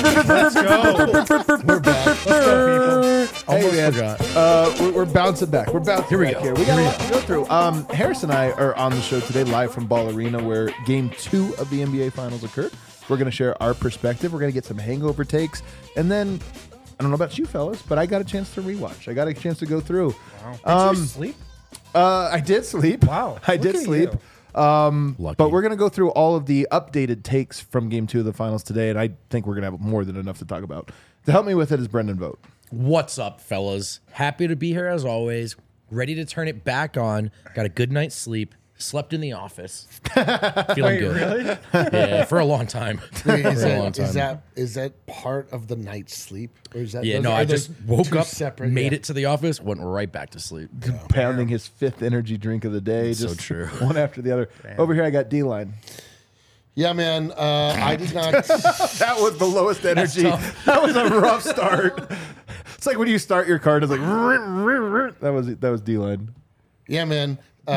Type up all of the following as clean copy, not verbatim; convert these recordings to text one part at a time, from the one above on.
Let's go. We're back. Let's go, people. Hey, man. Forgot. We're bouncing back. We're bouncing Here we back go. here. We got a lot to go through. Harris and I are on the show today live from Ball Arena where Game 2 of the NBA Finals occurred. We're going to share our perspective. We're going to get some hangover takes. And then, I don't know about you fellas, but I got a chance to rewatch. I got a chance to go through. Wow. Did you sleep? I did sleep. Wow. I Look did at sleep. you. Lucky. But we're going to go through all of the updated takes from Game 2 of the Finals today, and I think we're going to have more than enough to talk about. To help me with it is Brendan Vogt. What's up, fellas? Happy to be here as always. Ready to turn it back on. Got a good night's sleep. Slept in the office. Feeling Wait, good. really? Yeah, for a long time. Wait, For a long time. is that part of the night's sleep, or is that? Yeah, those- no, are I those just woke two up, separate? made Yeah. it to the office, went right back to sleep. Pounding his fifth energy drink of the day. So just true. One after the other. Over here, I got D-Line. Yeah, man. I did not. That was the lowest energy. That was a rough start. It's like when you start your car, it's like that was D-Line. Yeah, man.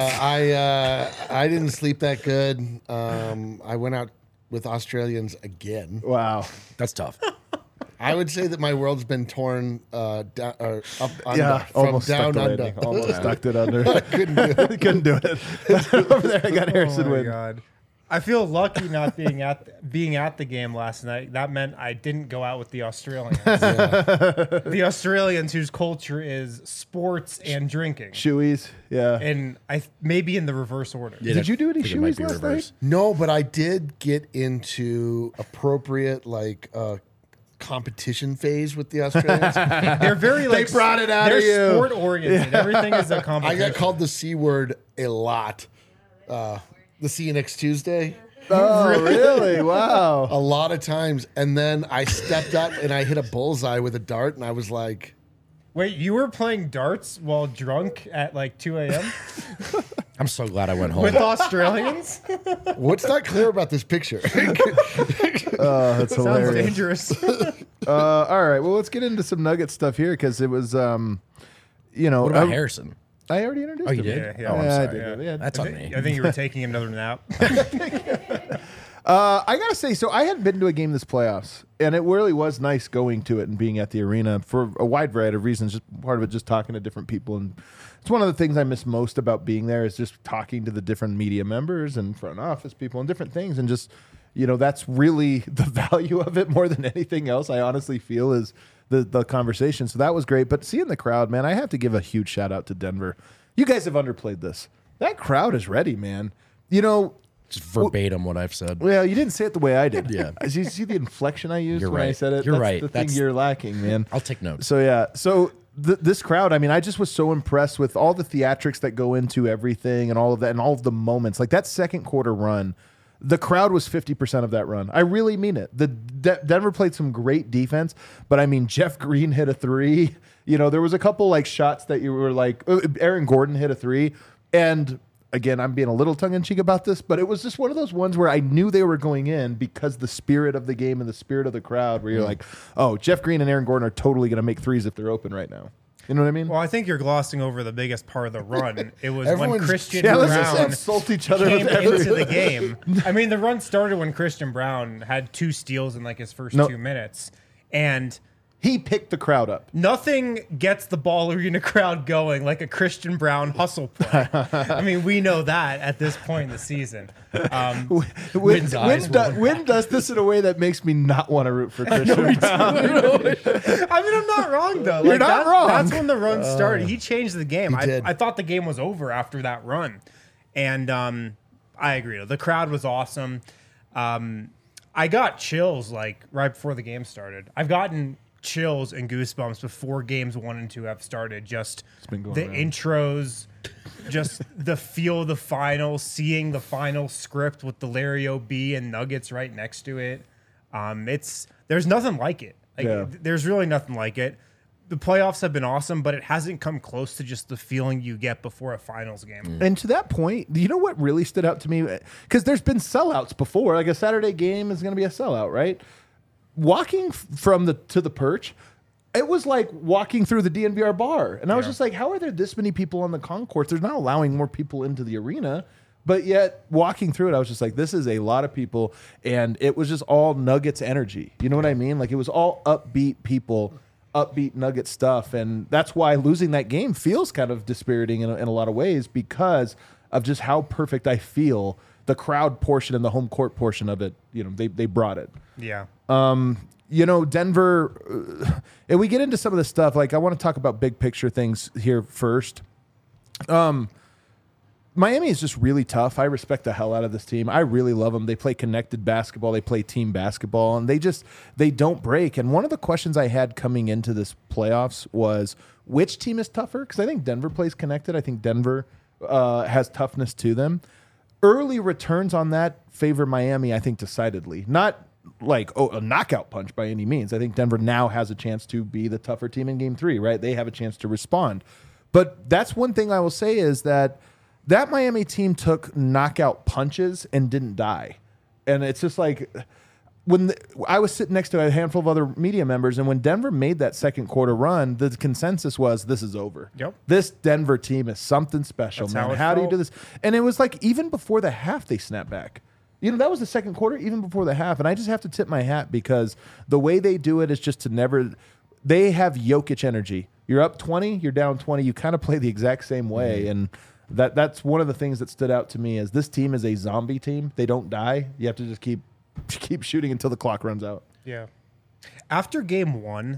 I didn't sleep that good. I went out with Australians again. Wow. That's tough. I would say that my world's been torn down, or up under, Yeah, from almost down stuck the under. landing. Almost stuck it under. Couldn't do it. Couldn't do it. Over there, I got Harrison Oh my win. god. I feel lucky not being at the game last night. That meant I didn't go out with the Australians. The Australians whose culture is sports and drinking. Shoeies, yeah. And maybe in the reverse order. Yeah, Did you do any I think it might shoeies be last reverse. No, but I did get into appropriate competition phase with the Australians. They're very like brought it out of they're you. sport oriented. Everything is a I competition. got called the C word a lot. The see you next Tuesday. Oh, really? Wow. A lot of times. And then I stepped up and I hit a bullseye with a dart, and I was like, Wait, you were playing darts while drunk at like 2 a.m. I'm so glad I went home. with Australians? what's not clear about this picture? Oh, that's Sounds hilarious. dangerous. All right. Well, let's get into some Nugget stuff here because it was, What about Harrison? I already introduced Oh, you him. did? Yeah, Oh, I'm Yeah, I sorry. did. Yeah. That's on me. I think you were taking another nap. I gotta say, so I hadn't been to a game this playoffs, and it really was nice going to it and being at the arena for a wide variety of reasons. Just part of it, just talking to different people, and it's one of the things I miss most about being there is just talking to the different media members and front office people and different things, and just that's really the value of it more than anything else. I honestly feel is the conversation. So that was great, but seeing the crowd, man, I have to give a huge shout out to Denver. You guys have underplayed this. That crowd is ready, man. Just verbatim what I've said. Well, you didn't say it the way I did. Yeah. Did you see the inflection I used You're when I right. said it? You're That's right. the thing That's- you're lacking, man. I'll take notes. So, yeah. So, this crowd, I mean, I just was so impressed with all the theatrics that go into everything and all of that and all of the moments. Like that second quarter run, the crowd was 50% of that run. I really mean it. Denver played some great defense, but I mean, Jeff Green hit a three. There was a couple like shots that you were like, Aaron Gordon hit a three. And again, I'm being a little tongue-in-cheek about this, but it was just one of those ones where I knew they were going in because the spirit of the game and the spirit of the crowd where you're like, oh, Jeff Green and Aaron Gordon are totally going to make threes if they're open right now. You know what I mean? Well, I think you're glossing over the biggest part of the run. It was when Everyone's- Christian Let's just Brown insult each other came with every... into the game. I mean, the run started when Christian Brown had 2 steals in like his first No. 2 minutes. And He picked the crowd up. nothing gets the Ball Arena crowd going like a Christian Brown hustle play. I mean, we know that at this point in the season. Win eyes does this in a way that makes me not want to root for Christian Brown. I mean, I'm not wrong, though. You're not wrong. That's when the run started. He changed the game. He did. I thought the game was over after that run. And I agree. The crowd was awesome. I got chills like right before the game started. I've gotten chills and goosebumps before games 1 and 2 have started. Just been going the around. intros, just the feel of the final, seeing the final script with the Larry O.B. and Nuggets right next to it. There's nothing like it. Yeah. There's really nothing like it. The playoffs have been awesome, but it hasn't come close to just the feeling you get before a finals game. And to that point, you know what really stood out to me? Because there's been sellouts before. Like a Saturday game is going to be a sellout, right? Walking from to the perch, it was like walking through the DNVR bar. And I was just like, how are there this many people on the concourse? They're not allowing more people into the arena. But yet, walking through it, I was just like, this is a lot of people. And it was just all Nuggets energy. You know what I mean? Like, it was all upbeat people, upbeat Nugget stuff. And that's why losing that game feels kind of dispiriting in a lot of ways, because of just how perfect I feel the crowd portion and the home court portion of it, they brought it. Yeah. Denver, and we get into some of this stuff. Like, I want to talk about big picture things here first. Miami is just really tough. I respect the hell out of this team. I really love them. They play connected basketball. They play team basketball, and they don't break. And one of the questions I had coming into this playoffs was, which team is tougher? Because I think Denver plays connected. I think Denver has toughness to them. Early returns on that favor Miami, I think, decidedly. Not like a knockout punch by any means. I think Denver now has a chance to be the tougher team in Game 3, right? They have a chance to respond. But that's one thing I will say is that Miami team took knockout punches and didn't die. And it's just like, I was sitting next to a handful of other media members, and when Denver made that second quarter run, the consensus was, this is over. Yep. This Denver team is something special, That's man. how Do you it do felt. this? And it was like, even before the half, they snapped back. That was the second quarter, even before the half. And I just have to tip my hat, because the way they do it is just to never, they have Jokic energy. You're up 20, you're down 20. You kind of play the exact same way. And that's one of the things that stood out to me, is this team is a zombie team. They don't die. You have to just keep shooting until the clock runs out. Yeah. After game one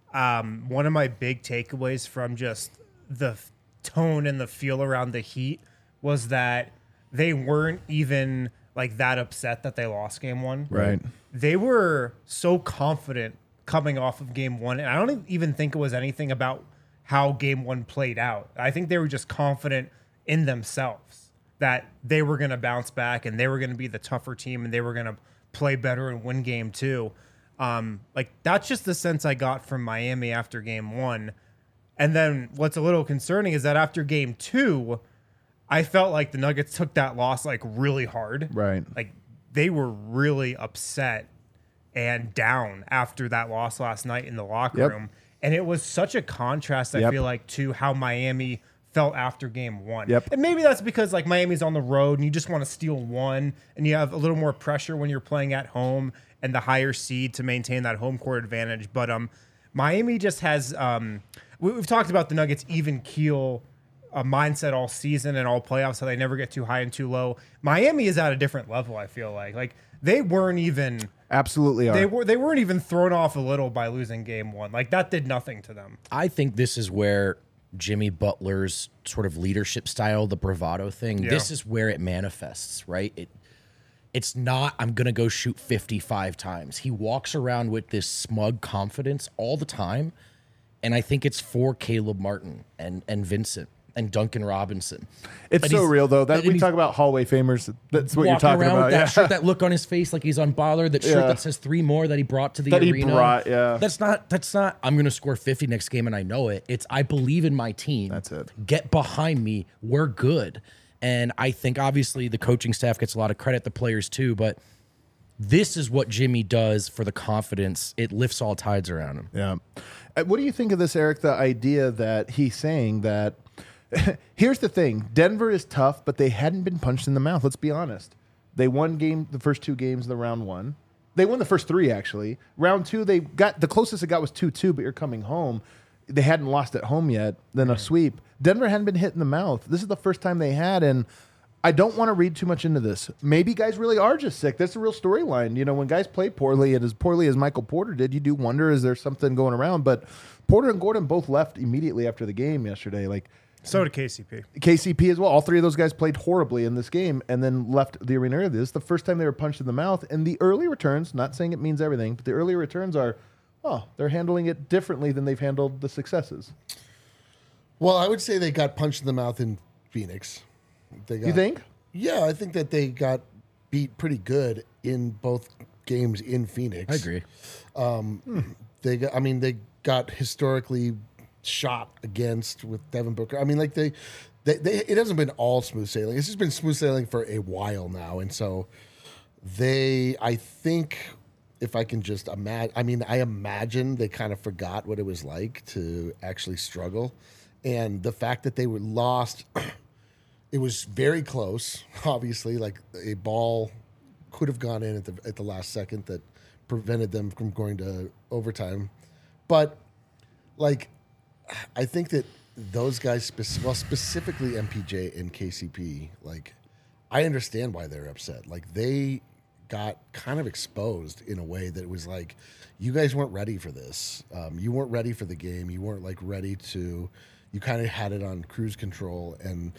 of my big takeaways from just the tone and the feel around the Heat was that they weren't even like that upset that they lost game one. Right. They were so confident coming off of game one. And I don't even think it was anything about how game one played out. I think they were just confident in themselves that they were going to bounce back and they were going to be the tougher team and they were going to play better and win game two. Like, that's just the sense I got from Miami after game one. And then what's a little concerning is that after game two, I felt like the Nuggets took that loss like really hard. Right. Like, they were really upset and down after that loss last night in the locker room. And it was such a contrast, I feel like, to how Miami felt after game one. And maybe that's because like Miami's on the road and you just want to steal one and you have a little more pressure when you're playing at home and the higher seed to maintain that home court advantage. But Miami just has we've talked about the Nuggets even keel mindset all season and all playoffs, how they never get too high and too low. Miami is at a different level, I feel like they weren't even Absolutely are. they weren't even thrown off a little by losing game one. Like, that did nothing to them. I think this is where Jimmy Butler's sort of leadership style, the bravado thing, this is where it manifests, right? It's not, I'm going to go shoot 55 times. He walks around with this smug confidence all the time. And I think it's for Caleb Martin and Vincent and Duncan Robinson. It's But so he's- real, though. That and we he's talk about hallway famers. That's what you're walking talking around about. with that Yeah. shirt, that look on his face like he's unbothered, that shirt Yeah. that says 3 more that he brought to the That he arena. brought, yeah. That's not, I'm going to score 50 next game and I know it. It's, I believe in my team. That's it. Get behind me. We're good. And I think obviously the coaching staff gets a lot of credit, the players too, but this is what Jimmy does for the confidence. It lifts all tides around him. Yeah. What do you think of this, Eric? The idea that he's saying that here's the thing: Denver is tough, but they hadn't been punched in the mouth. Let's be honest. They won the first 2 games of the round one. They won the first 3 actually. Round 2, they got the closest it got was 2-2, but you're coming home. They hadn't lost at home yet. Then a sweep. Denver hadn't been hit in the mouth. This is the first time they had, and I don't want to read too much into this. Maybe guys really are just sick. That's a real storyline. You know, when guys play poorly and as poorly as Michael Porter did, you do wonder, is there something going around? But Porter and Gordon both left immediately after the game yesterday. Like, So did KCP. KCP as well. All 3 of those guys played horribly in this game and then left the arena early. This is the first time they were punched in the mouth. And the early returns, not saying it means everything, but the early returns are, they're handling it differently than they've handled the successes. Well, I would say they got punched in the mouth in Phoenix. You think? Yeah, I think that they got beat pretty good in both games in Phoenix. I agree. They got historically shot against with Devin Booker. I mean, like they it hasn't been all smooth sailing. It's just been smooth sailing for a while now, and so I think if I can just imagine, I imagine they kind of forgot what it was like to actually struggle, and the fact that they were lost it was very close. Obviously, like a ball could have gone in at the last second that prevented them from going to overtime. But like, I think that those guys, specifically MPJ and KCP, like, I understand why they're upset. Like, they got kind of exposed in a way that was like, you guys weren't ready for this. You weren't ready for the game. You weren't like ready to. You kind of had it on cruise control, and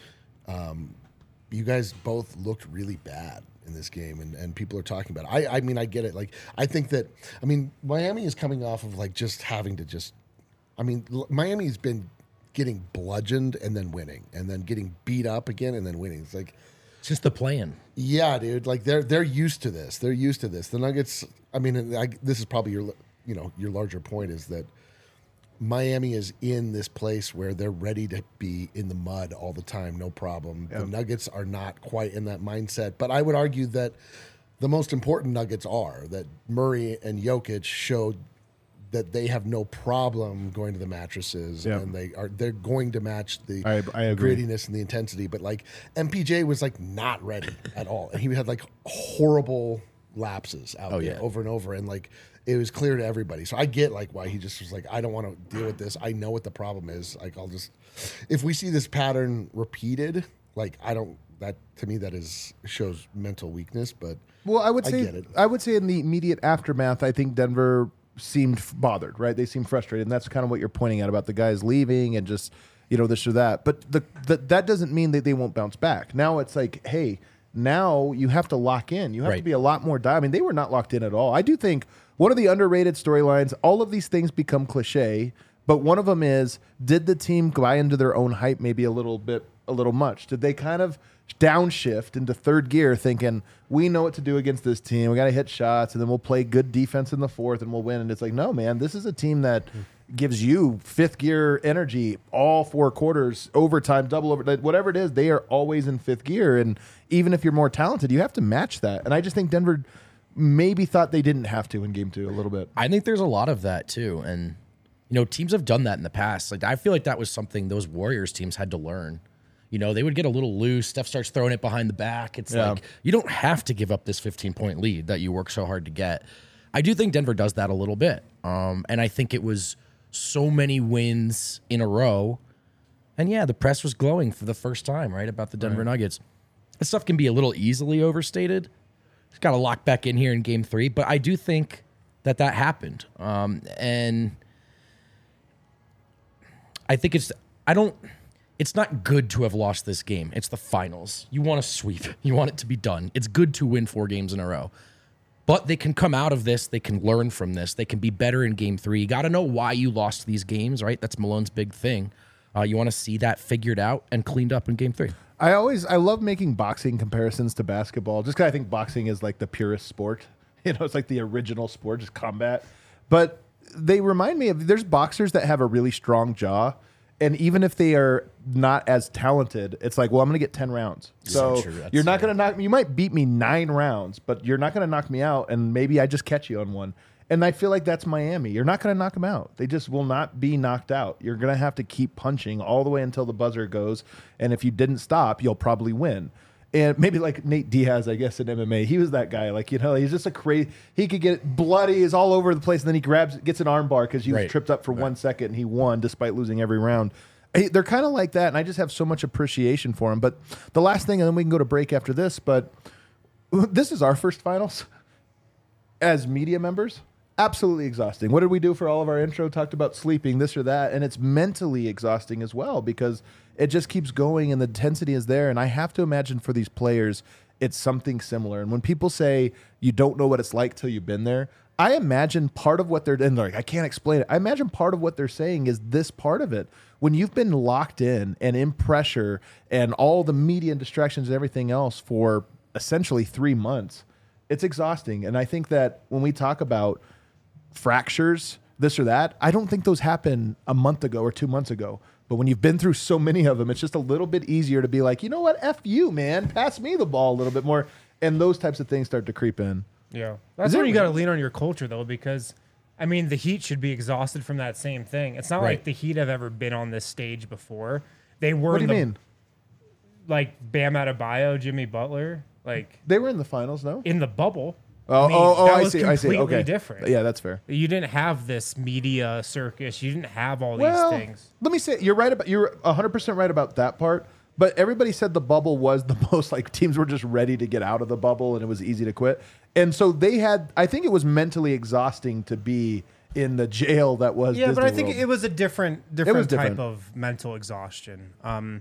you guys both looked really bad in this game, and people are talking about it. I mean, I get it. Like, I think that, I mean, Miami is coming off of like just having to just, I mean, Miami's been getting bludgeoned and then winning, and then getting beat up again and then winning. It's like, it's just the plan. Yeah, dude. Like they're used to this. They're used to this. The Nuggets. I mean, this is probably your larger point is that Miami is in this place where they're ready to be in the mud all the time, no problem. Yep. The Nuggets are not quite in that mindset, but I would argue that the most important Nuggets are that Murray and Jokic showed that they have no problem going to the mattresses, yep. And they're going to match the grittiness and the intensity. But like MPJ was like not ready at all, and he had like horrible lapses out there over and over, and like it was clear to everybody. So I get like why he just was like, I don't want to deal with this. I know what the problem is. Like I'll just, if we see this pattern repeated, like I don't. That to me that shows mental weakness. But well, I would say in the immediate aftermath, I think Denver seemed bothered, right? They seemed frustrated, and that's kind of what you're pointing at about the guys leaving and just, this or that. But that doesn't mean that they won't bounce back. Now it's like, hey, now you have to lock in. You have to be a lot more I mean, they were not locked in at all. I do think one of the underrated storylines, all of these things become cliche, but one of them is, did the team buy into their own hype maybe a little much? Did they kind of downshift into third gear thinking, we know what to do against this team, we got to hit shots, and then we'll play good defense in the fourth and we'll win? And it's like, no, man, this is a team that gives you fifth gear energy all 4 quarters, overtime, double over, whatever it is, they are always in fifth gear. And even if you're more talented, you have to match that. And I just think Denver maybe thought they didn't have to in game 2 a little bit. I think there's a lot of that too. And, teams have done that in the past. Like, I feel like that was something those Warriors teams had to learn. They would get a little loose. Steph starts throwing it behind the back. It's like, you don't have to give up this 15-point lead that you work so hard to get. I do think Denver does that a little bit. And I think it was so many wins in a row. And yeah, the press was glowing for the first time, right, about the Denver Nuggets. This stuff can be a little easily overstated. It's got to lock back in here in game 3. But I do think that happened. And I think it's not good to have lost this game. It's the finals. You want to sweep. You want it to be done. It's good to win 4 games in a row. But they can come out of this. They can learn from this. They can be better in game 3. You got to know why you lost these games, right? That's Malone's big thing. You want to see that figured out and cleaned up in game 3. I love making boxing comparisons to basketball, just because I think boxing is like the purest sport. It's like the original sport, just combat. But they remind me of, there's boxers that have a really strong jaw, and even if they are not as talented, it's like, well, I'm going to get 10 rounds. So you're not going to knock me. You might beat me 9 rounds, but you're not going to knock me out, and maybe I just catch you on one. And I feel like that's Miami. You're not going to knock them out. They just will not be knocked out. You're going to have to keep punching all the way until the buzzer goes, and if you didn't stop, you'll probably win. And maybe like Nate Diaz, I guess, in MMA, he was that guy. Like, he's just a crazy. He could get bloody, is all over the place, and then he gets an armbar because he was tripped up for 1 second, and he won despite losing every round. They're kind of like that, and I just have so much appreciation for him. But the last thing, and then we can go to break after this, but this is our first finals as media members. Absolutely exhausting. What did we do for all of our intro? Talked about sleeping, this or that, and it's mentally exhausting as well because it just keeps going and the intensity is there. And I have to imagine for these players, it's something similar. And when people say you don't know what it's like till you've been there, I imagine part of what they're like, I can't explain it. I imagine part of what they're saying is this part of it. When you've been locked in and in pressure and all the media and distractions and everything else for essentially 3 months, it's exhausting. And I think that when we talk about fractures, this or that, I don't think those happen a month ago or 2 months ago. But when you've been through so many of them, it's just a little bit easier to be like, you know what, F you, man. Pass me the ball a little bit more. And those types of things start to creep in. Yeah. That's where you got to lean on your culture, though, because, I mean, the Heat should be exhausted from that same thing. It's not like the Heat have ever been on this stage before. They were. What do you mean? like Bam Adebayo, Jimmy Butler, like They were in the finals, no? in the bubble. Oh, that I was see. I see. completely Okay. different. Yeah, that's fair. You didn't have this media circus. You didn't have all Well, these things. let me say you're 100% right about that part. But everybody said the bubble was the most like teams were just ready to get out of the bubble and it was easy to quit. And so they had. I think it was mentally exhausting to be in the jail that was. Yeah, Disney but I think World. it was a different different. type of mental exhaustion.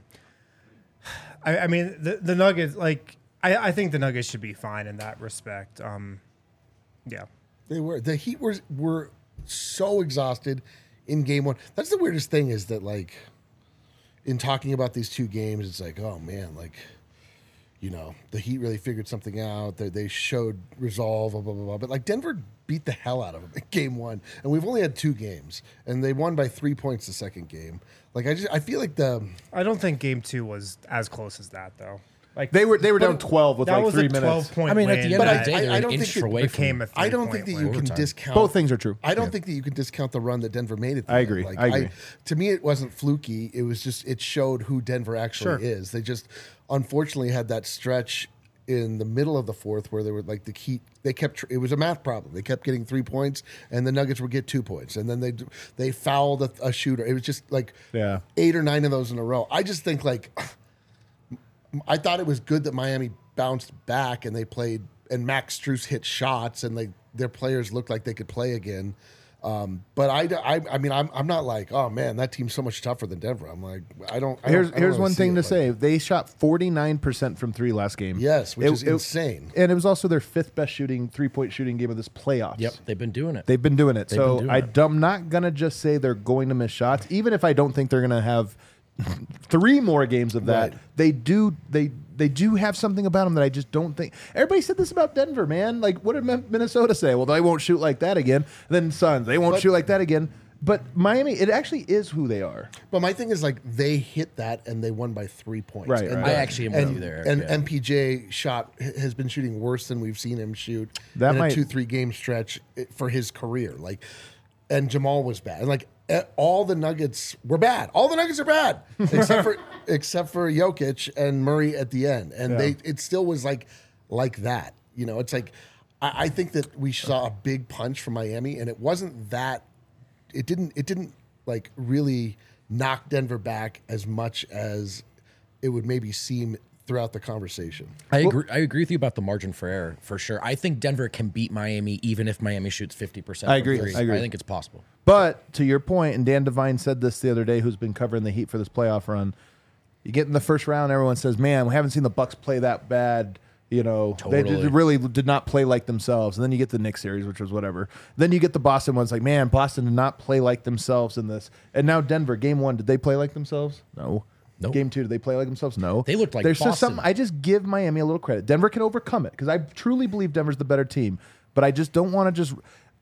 I mean, the Nuggets, like, I think the Nuggets should be fine in that respect. Yeah. They were. The Heat were so exhausted in game one. That's the weirdest thing is that, like, in talking about these two games, it's like, oh, man, like, you know, the Heat really figured something out. They showed resolve, blah, blah, blah, blah. But, like, Denver beat the hell out of them in game one. And we've only had 2 games. And they won by 3 points the second game. Like, I feel like I don't think game 2 was as close as that, though. Like They were down 12 with that like was 3 a minutes. 12-point I mean, at win the end of that the day, I they're an don't inch think it away became from. a I don't think that you win. can discount. Both things are true. I don't think that you can discount the run that Denver made at the I end. agree. Like, I agree. To me, it wasn't fluky. It was just it showed who Denver actually Sure. is. They just unfortunately had that stretch in the middle of the fourth where they were like the Heat. They kept it was a math problem. They kept getting 3 points, and the Nuggets would get 2 points, and then they fouled a shooter. It was just like 8 or 9 of those in a row. I just think like I thought it was good that Miami bounced back and they played, and Max Strus hit shots, and their players looked like they could play again. But I mean, I'm not like, oh man, that team's so much tougher than Denver. I'm like, Here's really one see thing it to like say. They shot 49% from 3 last game. Yes, which is insane. And it was also their 5th best 3-point shooting game of this playoffs. Yep, they've been doing it. They've been doing it. They've So been doing it. I'm not going to just say they're going to miss shots, even if I don't think they're going to have 3 more games of that. Right. They do have something about them that I just don't think. Everybody said this about Denver, man. Like, what did Minnesota say? Well, they won't shoot like that again. Then Suns, they won't shoot like that again. But Miami, it actually is who they are. But my thing is like they hit that and they won by 3 points. Right, And right. I actually am with you there. And yeah. MPJ has been shooting worse than we've seen him shoot That in might- a 2-3 game stretch for his career. Like, and Jamal was bad. And like all the Nuggets were bad. All the Nuggets are bad except for Jokic and Murray at the end. And it still was like that. You know, it's like I think that we saw a big punch from Miami, and it wasn't that. It didn't like really knock Denver back as much as it would maybe seem throughout the conversation. I agree with you about the margin for error for sure. I think Denver can beat Miami even if Miami shoots 50%. I agree. from three. I agree. I think it's possible. But to your point, and Dan Devine said this the other day, who's been covering the Heat for this playoff run, you get in the first round, everyone says, man, we haven't seen the Bucks play that bad. You know, they Totally. really did not play like themselves. And then you get the Knicks series, which was whatever. Then you get the Boston ones, like, man, Boston did not play like themselves in this. And now Denver, game 1, did they play like themselves? No. Nope. Game 2, did they play like themselves? No. They looked like There's just Boston. something. I just give Miami a little credit. Denver can overcome it because I truly believe Denver's the better team. But I just don't want to just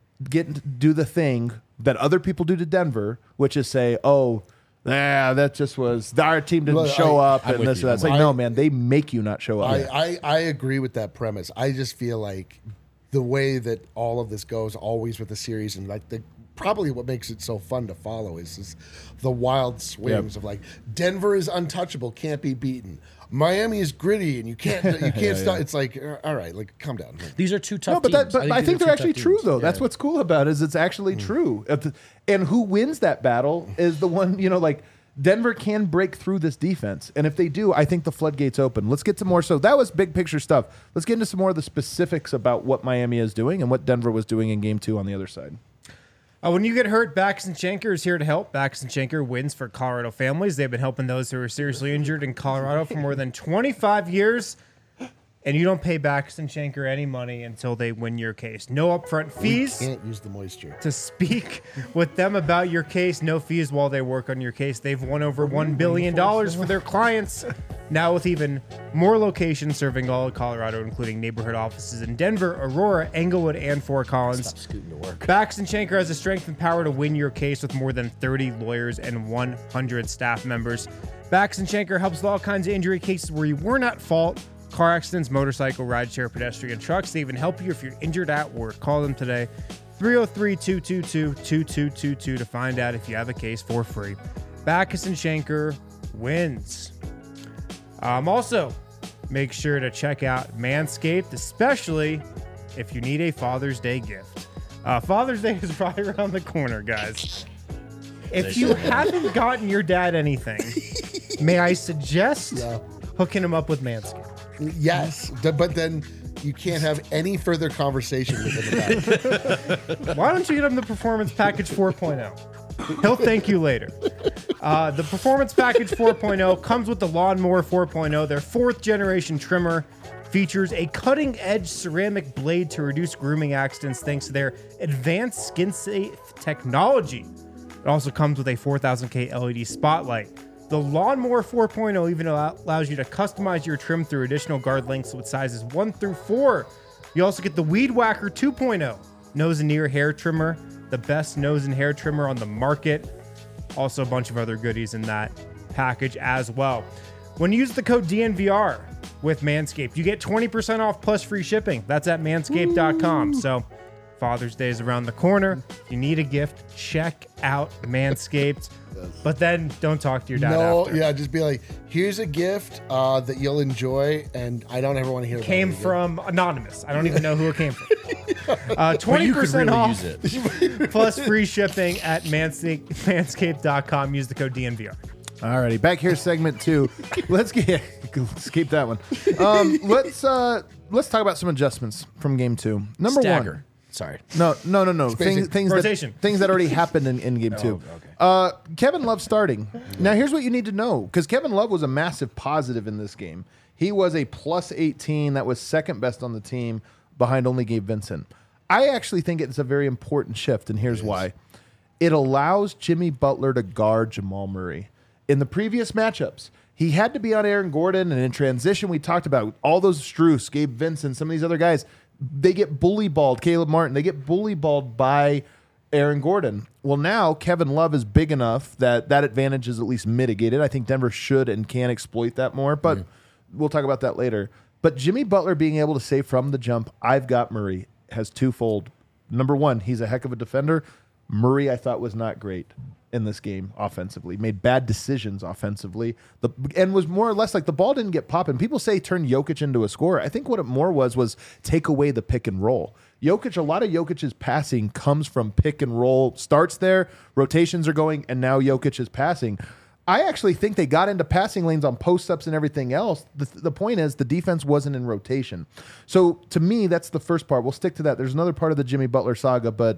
do the thing that other people do to Denver, which is say, oh, that just was our team didn't Look, show up I'm and with this you. and that. It's like, no, man, they make you not show up. I agree with that premise. I just feel like the way that all of this goes, always with the series, and like probably what makes it so fun to follow is the wild swings of like Denver is untouchable, can't be beaten. Miami is gritty and you can't stop. It's like, all right, like calm down. These are two tough No, but teams. I think these they're are two actually tough true teams. though. Yeah. That's what's cool about it, is it's actually true. And who wins that battle is the one, like Denver can break through this defense. And if they do, I think the floodgates open. Let's get to more. So that was big picture stuff. Let's get into some more of the specifics about what Miami is doing and what Denver was doing in game 2 on the other side. When you get hurt, Backus and Schenker is here to help. Backus and Schenker wins for Colorado families. They've been helping those who are seriously injured in Colorado for more than 25 years. And you don't pay Backus and Schenker any money until they win your case. No upfront fees. Can't use the moisture. To speak with them about your case. No fees while they work on your case. They've won over $1 billion for their clients. Now with even more locations serving all of Colorado, including neighborhood offices in Denver, Aurora, Englewood, and Fort Collins. Stop scooting to work. Backus and Schenker has the strength and power to win your case with more than 30 lawyers and 100 staff members. Backus and Schenker helps with all kinds of injury cases where you weren't at fault. Car accidents, motorcycle, rideshare, pedestrian, trucks. They even help you if you're injured at work. Call them today. 303-222-2222 to find out if you have a case for free. Backus and Schenker wins. Also, make sure to check out Manscaped, especially if you need a Father's Day gift. Father's Day is right around the corner, guys. If you haven't gotten your dad anything, may I suggest hooking him up with Manscaped? Yes, but then you can't have any further conversation with him about it. Why don't you get him the Performance Package 4.0? He'll thank you later. The Performance Package 4.0 comes with the Lawnmower 4.0, their 4th generation trimmer. Features a cutting-edge ceramic blade to reduce grooming accidents thanks to their advanced skin-safe technology. It also comes with a 4000K LED spotlight. The Lawnmower 4.0 even allows you to customize your trim through additional guard lengths with sizes 1 through 4. You also get the Weed Whacker 2.0, nose and ear hair trimmer, the best nose and hair trimmer on the market. Also a bunch of other goodies in that package as well. When you use the code DNVR with Manscaped, you get 20% off plus free shipping. That's at manscaped.com. So Father's Day is around the corner. If you need a gift, check out Manscaped. But then don't talk to your dad after. Yeah, just be like, here's a gift that you'll enjoy, and I don't ever want to hear about it. Came from Anonymous. I don't even know who it came from. 20% really off use it. plus free shipping at manscaped.com. Use the code DNVR. Alrighty, back here, segment 2. Let's keep that one. Let's talk about some adjustments from game 2. Number Stagger. 1. Sorry. No. Spacing. Things that already happened in game 2. Okay. Kevin Love starting. Now, here's what you need to know, because Kevin Love was a massive positive in this game. He was a plus 18. That was second best on the team behind only Gabe Vincent. I actually think it's a very important shift, and here's why. It allows Jimmy Butler to guard Jamal Murray. In the previous matchups, he had to be on Aaron Gordon, and in transition, we talked about all those Strus, Gabe Vincent, some of these other guys. They get bully balled, Caleb Martin. They get bully balled by Aaron Gordon. Well, now Kevin Love is big enough that that advantage is at least mitigated. I think Denver should and can exploit that more, but we'll talk about that later. But Jimmy Butler being able to say from the jump, I've got Murray, has twofold. Number one, he's a heck of a defender. Murray, I thought, was not great in this game offensively, made bad decisions offensively, and was more or less like the ball didn't get popping. People say turn Jokic into a scorer. I think what it more was take away the pick and roll. Jokic, a lot of Jokic's passing comes from pick and roll, starts there, rotations are going, and now Jokic is passing. I actually think they got into passing lanes on post-ups and everything else. The point is the defense wasn't in rotation. So to me, that's the first part. We'll stick to that. There's another part of the Jimmy Butler saga, but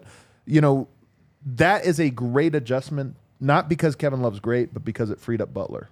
that is a great adjustment, not because Kevin Love's great, but because it freed up Butler.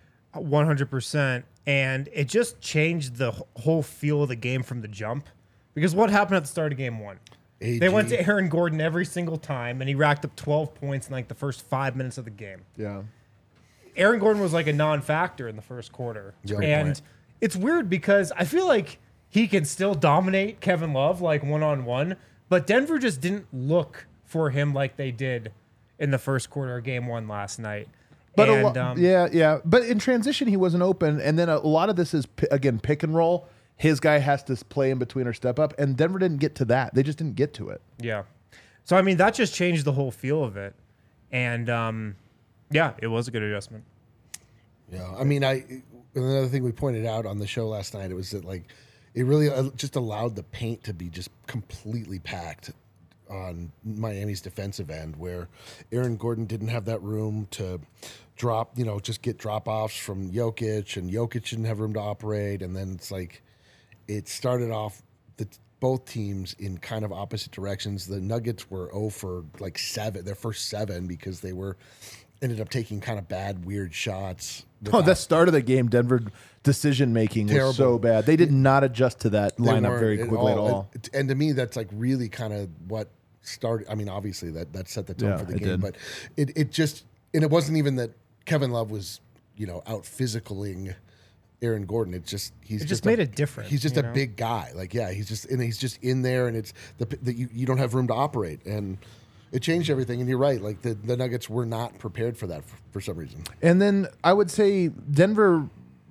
100%. And it just changed the whole feel of the game from the jump. Because what happened at the start of game 1? AG. They went to Aaron Gordon every single time, and he racked up 12 points in like the first 5 minutes of the game. Yeah. Aaron Gordon was like a non-factor in the first quarter. And it's weird because I feel like he can still dominate Kevin Love like one-on-one, but Denver just didn't look for him like they did in the first quarter of game 1 last night. But And, But in transition, he wasn't open, and then a lot of this is again pick and roll. His guy has to play in between or step up, and Denver didn't get to that. They just didn't get to it. Yeah. So I mean, that just changed the whole feel of it, and it was a good adjustment. Yeah, I mean, another thing we pointed out on the show last night, it was that like it really just allowed the paint to be just completely packed on Miami's defensive end, where Aaron Gordon didn't have that room to drop, just get drop-offs from Jokic, and Jokic didn't have room to operate. And then it's like it started off both teams in kind of opposite directions. The Nuggets were 0 for like 7, their first 7, because they ended up taking kind of bad, weird shots. The start of the game, Denver decision-making was so bad. They did not adjust to that lineup very quickly at all. And to me, that's like really kind of what started. I mean, obviously that set the tone for the game, but it just, and it wasn't even that Kevin Love was, out physicaling Aaron Gordon. It just made it different. He's just a big guy. Like, yeah, he's just in there, and it's you don't have room to operate, and it changed everything. And you're right. Like the Nuggets were not prepared for that for some reason. And then I would say Denver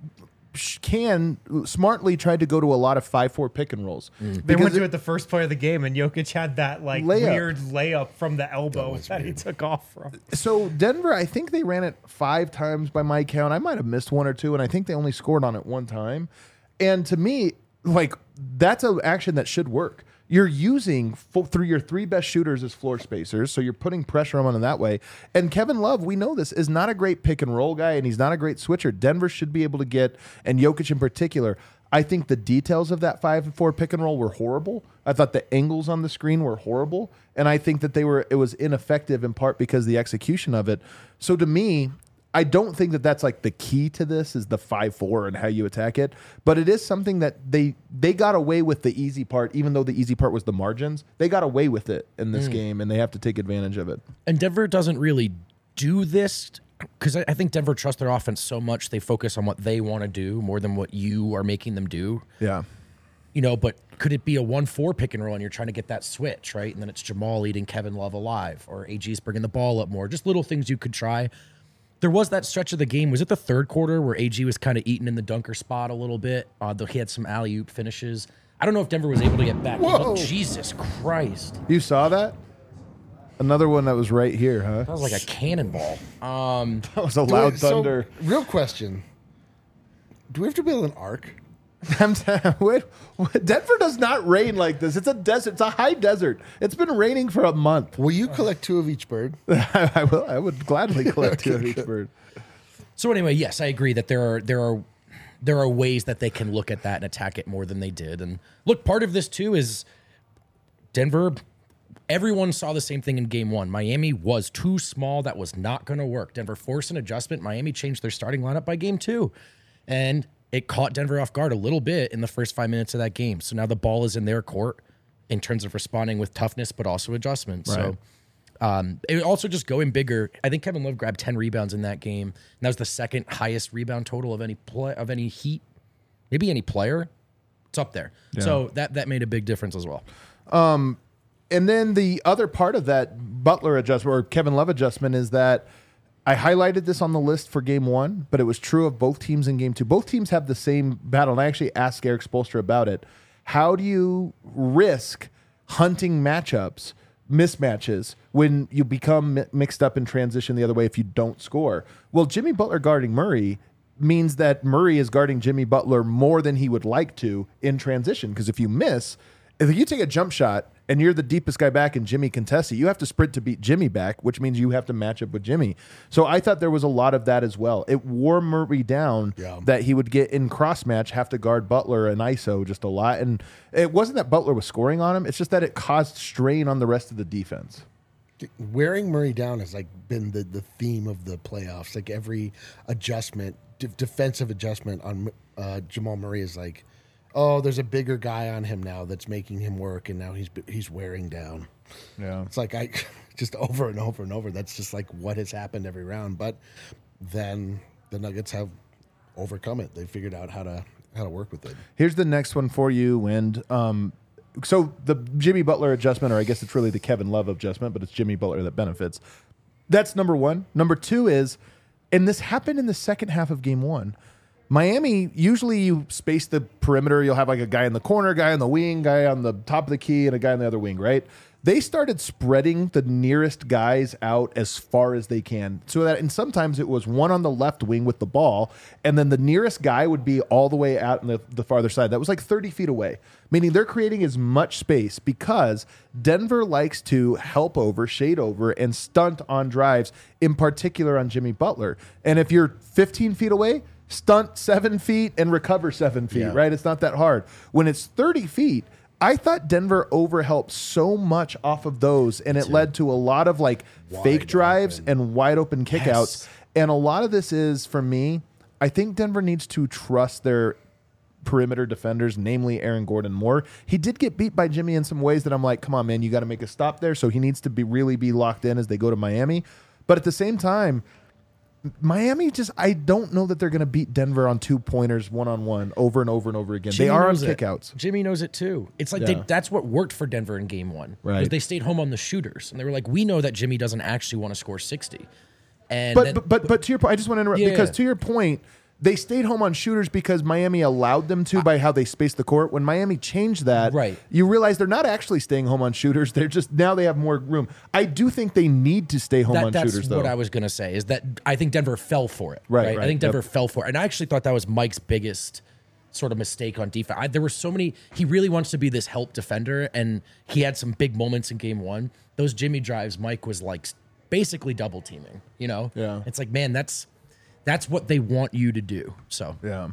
can smartly try to go to a lot of 5-4 pick and rolls. They went to it the first play of the game, and Jokic had that like weird layup from the elbow that he took off from. So Denver, I think they ran it 5 times by my count. I might have missed 1 or 2, and I think they only scored on it 1 time. And to me, like, that's an action that should work. You're using through your 3 best shooters as floor spacers, so you're putting pressure on them that way. And Kevin Love, we know this, is not a great pick and roll guy, and he's not a great switcher. Denver should be able to get, and Jokic in particular, I think the details of that 5-4 pick and roll were horrible. I thought the angles on the screen were horrible, and I think that it was ineffective in part because of the execution of it. So to me, I don't think that that's like the key to this is the 5-4 and how you attack it, but it is something that they got away with the easy part, even though the easy part was the margins. They got away with it in this game, and they have to take advantage of it. And Denver doesn't really do this because I think Denver trusts their offense so much they focus on what they want to do more than what you are making them do. Yeah. You know, but could it be a 1-4 pick and roll and you're trying to get that switch, right? And then it's Jamal eating Kevin Love alive, or AG's bringing the ball up more. Just little things you could try. There was that stretch of the game. Was it the third quarter where AG was kind of eating in the dunker spot a little bit? Though he had some alley-oop finishes. I don't know if Denver was able to get back. Whoa. Jesus Christ. You saw that? Another one that was right here, huh? That was like a cannonball. That was a loud thunder. So, real question. Do we have to build an ark? Wait, Denver does not rain like this. It's a desert. It's a high desert. It's been raining for a month. Will you collect 2 of each bird? I will. I would gladly collect 2 of each bird. So anyway, yes, I agree that there are ways that they can look at that and attack it more than they did. And look, part of this too is Denver. Everyone saw the same thing in game 1. Miami was too small. That was not going to work. Denver forced an adjustment. Miami changed their starting lineup by game 2. And it caught Denver off guard a little bit in the first 5 minutes of that game. So now the ball is in their court in terms of responding with toughness, but also adjustments. Right. So it also just going bigger. I think Kevin Love grabbed 10 rebounds in that game. And that was the second highest rebound total of any Heat, maybe any player. It's up there. Yeah. So that made a big difference as well. And then the other part of that Butler adjustment or Kevin Love adjustment is that I highlighted this on the list for game 1, but it was true of both teams in game 2. Both teams have the same battle, and I actually asked Eric Spoelstra about it. How do you risk hunting matchups, mismatches, when you become mixed up in transition the other way if you don't score? Well, Jimmy Butler guarding Murray means that Murray is guarding Jimmy Butler more than he would like to in transition, because if you miss, if you take a jump shot and you're the deepest guy back and Jimmy contests it, you have to sprint to beat Jimmy back, which means you have to match up with Jimmy. So I thought there was a lot of that as well. It wore Murray down that he would get in cross match, have to guard Butler and ISO just a lot. And it wasn't that Butler was scoring on him. It's just that it caused strain on the rest of the defense. Wearing Murray down has like been the theme of the playoffs. Like every adjustment, defensive adjustment on Jamal Murray is like, oh, there's a bigger guy on him now that's making him work, and now he's wearing down. Yeah, it's like I just over and over and over. That's just like what has happened every round. But then the Nuggets have overcome it. They figured out how to work with it. Here's the next one for you, Wind. So the Jimmy Butler adjustment, or I guess it's really the Kevin Love adjustment, but it's Jimmy Butler that benefits. That's number 1. Number 2 is, and this happened in the second half of game 1. Miami, usually you space the perimeter. You'll have like a guy in the corner, guy on the wing, guy on the top of the key, and a guy on the other wing, right? They started spreading the nearest guys out as far as they can. So that, and sometimes it was one on the left wing with the ball, and then the nearest guy would be all the way out on the farther side. That was like 30 feet away, meaning they're creating as much space because Denver likes to help over, shade over, and stunt on drives, in particular on Jimmy Butler. And if you're 15 feet away, stunt 7 feet and recover 7 feet, right? It's not that hard. When it's 30 feet, I thought Denver overhelped so much off of those, and it led to a lot of like fake drives and wide open kickouts. Yes. And a lot of this is, for me, I think Denver needs to trust their perimeter defenders, namely Aaron Gordon, more. He did get beat by Jimmy in some ways that I'm like, come on, man, you got to make a stop there. So he needs to really be locked in as they go to Miami. But at the same time, Miami I don't know that they're going to beat Denver on 2-pointers one-on-one over and over and over again. Jimmy, they are on kickouts. Jimmy knows it too. It's like that's what worked for Denver in game 1. Right. Because they stayed home on the shooters. And they were like, we know that Jimmy doesn't actually want to score 60. And but to your point, I just want to interrupt because to your point, they stayed home on shooters because Miami allowed them to by how they spaced the court. When Miami changed that, Right. you realize they're not actually staying home on shooters. They're just, now they have more room. I do think they need to stay home on That's shooters, though. what I was going to say, is that I think Denver fell for it. Right, I think yep. Denver fell for it. And I actually thought that was Mike's biggest sort of mistake on defense. There were so many, he really wants to be this help defender, and he had some big moments in game one. Those Jimmy drives, Mike was like basically double teaming, you know? Yeah. It's like, man, that's what they want you to do. So Yeah.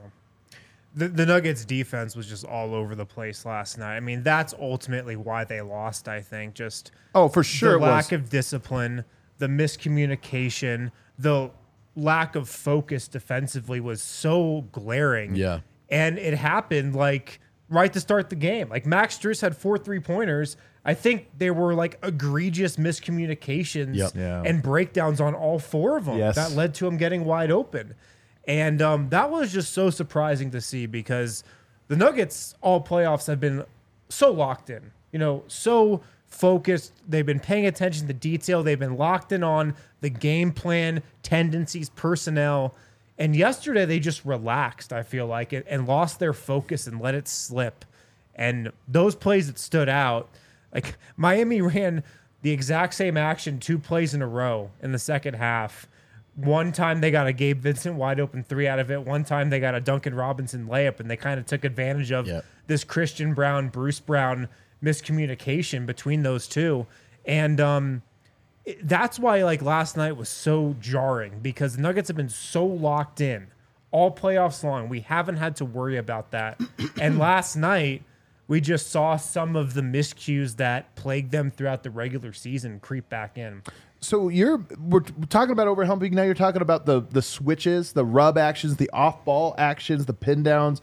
The Nuggets defense was just all over the place last night. I mean, that's ultimately why they lost, I think. Just Oh, for sure the it was. lack of discipline, the miscommunication, the lack of focus defensively was so glaring. Yeah. And it happened like right to start the game. Like Max Strus had 4 3-pointers. I think there were like egregious miscommunications Yep. Yeah. and breakdowns on all 4 of them Yes. that led to him getting wide open. And that was just so surprising to see because the Nuggets all playoffs have been so locked in, you know, so focused. They've been paying attention to detail. They've been locked in on the game plan, tendencies, personnel. And yesterday they just relaxed, I feel like, and lost their focus and let it slip. And those plays that stood out, like Miami ran the exact same action 2 plays in a row in the second half. One time they got a Gabe Vincent wide open 3 out of it. One time they got a Duncan Robinson layup, and they kind of took advantage of this Christian Brown, Bruce Brown miscommunication between those two. And that's why like last night was so jarring because the Nuggets have been so locked in all playoffs long. We haven't had to worry about that. And last night we just saw some of the miscues that plagued them throughout the regular season creep back in. So we're talking about overhelping. Now you're talking about the switches, the rub actions, the off ball actions, the pin downs.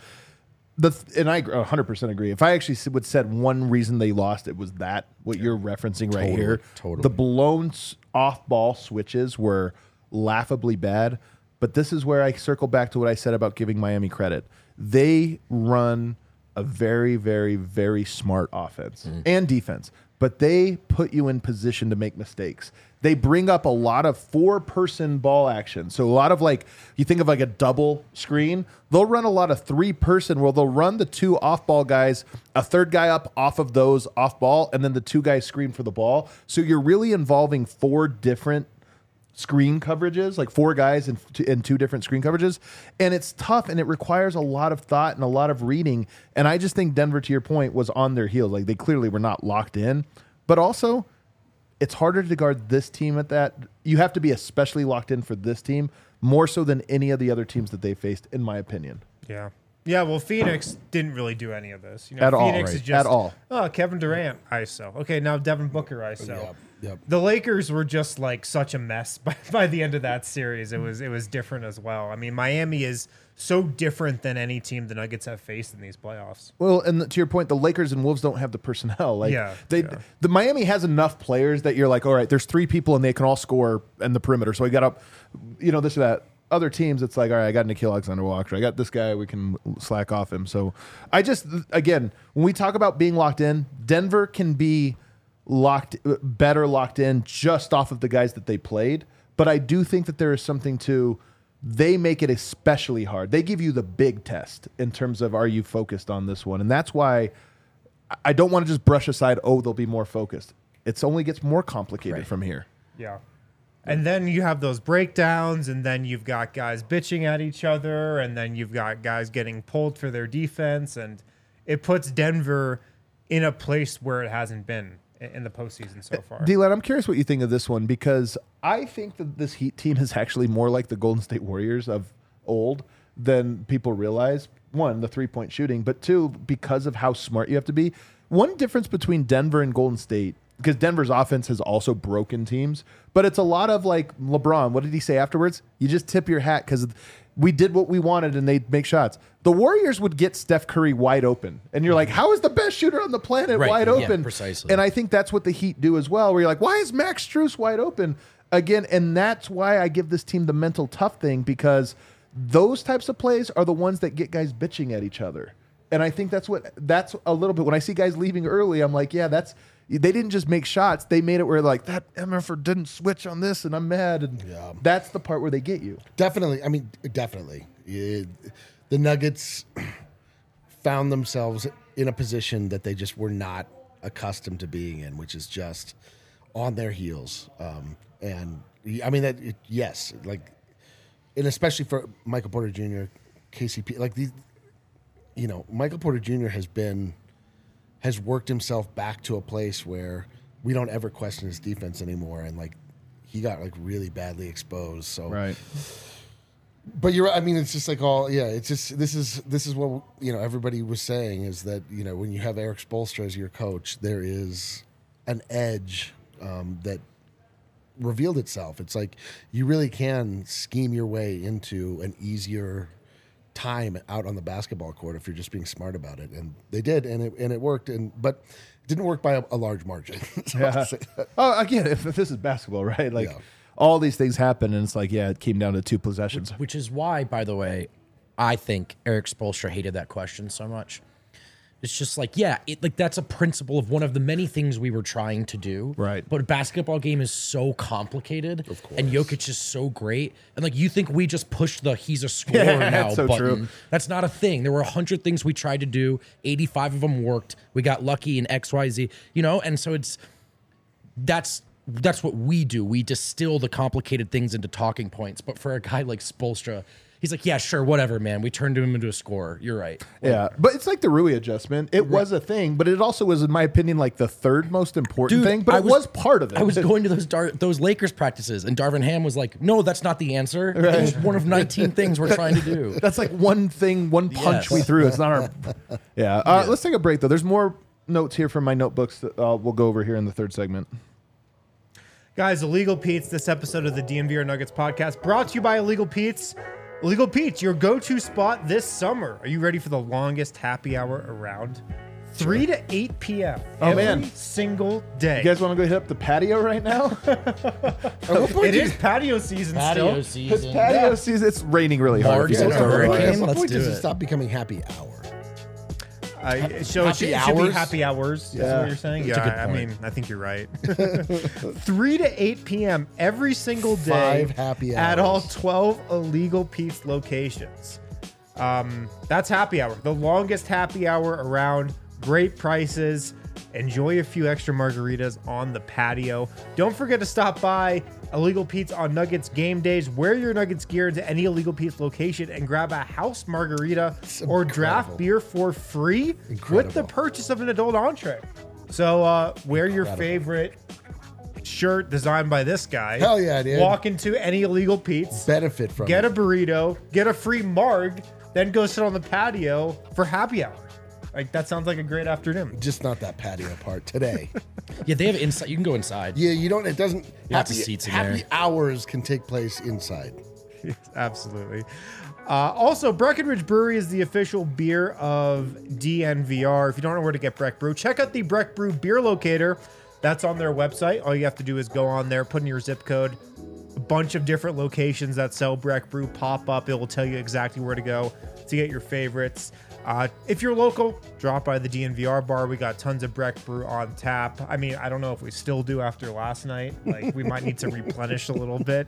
And I 100% agree. If I actually would said one reason they lost, it was that what you're referencing right here. Totally. The blown off ball switches were laughably bad. But this is where I circle back to what I said about giving Miami credit. They run a very, very, very smart offense and defense, but they put you in position to make mistakes. They bring up a lot of 4-person ball action. So a lot of like, you think of like a double screen, they'll run a lot of 3-person where they'll run the 2 off-ball guys, a 3rd guy up off of those off-ball, and then the 2 guys screen for the ball. So you're really involving 4 different screen coverages, like 4 guys in 2 different screen coverages. And it's tough, and it requires a lot of thought and a lot of reading. And I just think Denver, to your point, was on their heels. Like they clearly were not locked in. But also, it's harder to guard this team at that. You have to be especially locked in for this team, more so than any of the other teams that they faced, in my opinion. Yeah. Yeah, well, Phoenix didn't really do any of this. You know, At all, Phoenix right. is just At all. Oh, Kevin Durant ISO. Okay, now Devin Booker ISO. Yep. The Lakers were just like such a mess by the end of that series. It was different as well. I mean, Miami is so different than any team the Nuggets have faced in these playoffs. Well, and to your point, the Lakers and Wolves don't have the personnel. Like Yeah, the Miami has enough players that you're like, all right, there's 3 people and they can all score in the perimeter. So we got up, you know, this or that. Other teams, it's like, all right, I got Nickeil Alexander-Walker. I got this guy. We can slack off him. So I just, again, when we talk about being locked in, Denver can be better locked in just off of the guys that they played. But I do think that there is something to, they make it especially hard. They give you the big test in terms of, are you focused on this one? And that's why I don't want to just brush aside, oh, they'll be more focused. It only gets more complicated from here. Yeah. And then you have those breakdowns, and then you've got guys bitching at each other, and then you've got guys getting pulled for their defense, and it puts Denver in a place where it hasn't been in the postseason so far. D-Len, I'm curious what you think of this one, because I think that this Heat team is actually more like the Golden State Warriors of old than people realize. 1, the 3-point shooting, but 2, because of how smart you have to be. One difference between Denver and Golden State, because Denver's offense has also broken teams, but it's a lot of like LeBron. What did he say afterwards? You just tip your hat because we did what we wanted and they'd make shots. The Warriors would get Steph Curry wide open. And you're like, how is the best shooter on the planet wide open? Yeah, precisely. And I think that's what the Heat do as well, where you're like, why is Max Strus wide open? Again, and that's why I give this team the mental tough thing, because those types of plays are the ones that get guys bitching at each other. And I think that's a little bit, when I see guys leaving early, I'm like, yeah, that's, They didn't just make shots; they made it where like that MFer didn't switch on this, and I'm mad. And that's the part where they get you. Definitely. I mean, definitely. The Nuggets found themselves in a position that they just were not accustomed to being in, which is just on their heels. And I mean yes, like, and especially for Michael Porter Jr., KCP, like these, Michael Porter Jr. has worked himself back to a place where we don't ever question his defense anymore, and like he got like really badly exposed. So Right. But you're right. I mean, it's just like it's just this is what everybody was saying is that when you have Eric Spoelstra as your coach, there is an edge that revealed itself. It's like you really can scheme your way into an easier time out on the basketball court if you're just being smart about it, and they did, and it worked, but it didn't work by a large margin. Oh, again, if this is basketball, right? Like all these things happen, and it's like it came down to 2 possessions, which is why, by the way, I think Eric Spoelstra hated that question so much. It's just like, that's a principle of one of the many things we were trying to do. Right. But a basketball game is so complicated. Of course. And Jokic is so great. And like, you think we just pushed the he's a scorer now so button. true. That's not a thing. There were 100 things we tried to do. 85 of them worked. We got lucky in XYZ, and so that's what we do. We distill the complicated things into talking points. But for a guy like Spoelstra, he's like, yeah, sure, whatever, man. We turned him into a scorer. You're right. Yeah, but it's like the Rui adjustment. It was a thing, but it also was, in my opinion, like the third most important thing. But it was part of it. I was going to those Lakers practices, and Darvin Ham was like, no, that's not the answer. Right. It's one of 19 things we're trying to do. That's like one thing, one punch we threw. It's not our... Yeah. Let's take a break, though. There's more notes here from my notebooks that we'll go over here in the third segment. Guys, Illegal Pete's, this episode of the DNVR Nuggets podcast, brought to you by Illegal Pete's. Illegal Pete's, your go-to spot this summer. Are you ready for the longest happy hour around? 3 to 8 p.m. every single day. You guys want to go hit up the patio right now? It is patio season still. It's patio season. It's raining really hard. March and a hurricane. What Let's point do does it it. stop becoming happy hour? So it should be happy hours, is what you're saying? That's a good I point. mean, I think you're right. 3 to 8 p.m. every single day 5 happy at hours. all 12 Illegal Pete's locations. That's happy hour. The longest happy hour around. Great prices. Enjoy a few extra margaritas on the patio. Don't forget to stop by Illegal Pete's on Nuggets game days. Wear your Nuggets gear into any Illegal Pete's location and grab a house margarita or draft beer for free with the purchase of an adult entree. So wear your favorite shirt designed by this guy. Hell yeah, dude. Walk into any Illegal Pete's. Benefit from Get it. a burrito. Get a free marg. Then go sit on the patio for happy hour. Like, that sounds like a great afternoon. Just not that patio part today. Yeah, they have inside. You can go inside. Yeah, you don't. It doesn't. Lots of seats in happy there. hours can take place inside. Yes, absolutely. Also, Breckenridge Brewery is the official beer of DNVR. If you don't know where to get Breck Brew, check out the Breck Brew beer locator. That's on their website. All you have to do is go on there, put in your zip code. A bunch of different locations that sell Breck Brew pop up. It will tell you exactly where to go to get your favorites. If you're local, drop by the DNVR bar. We got tons of Breck Brew on tap. I mean, I don't know if we still do after last night. Like, we might need to replenish a little bit.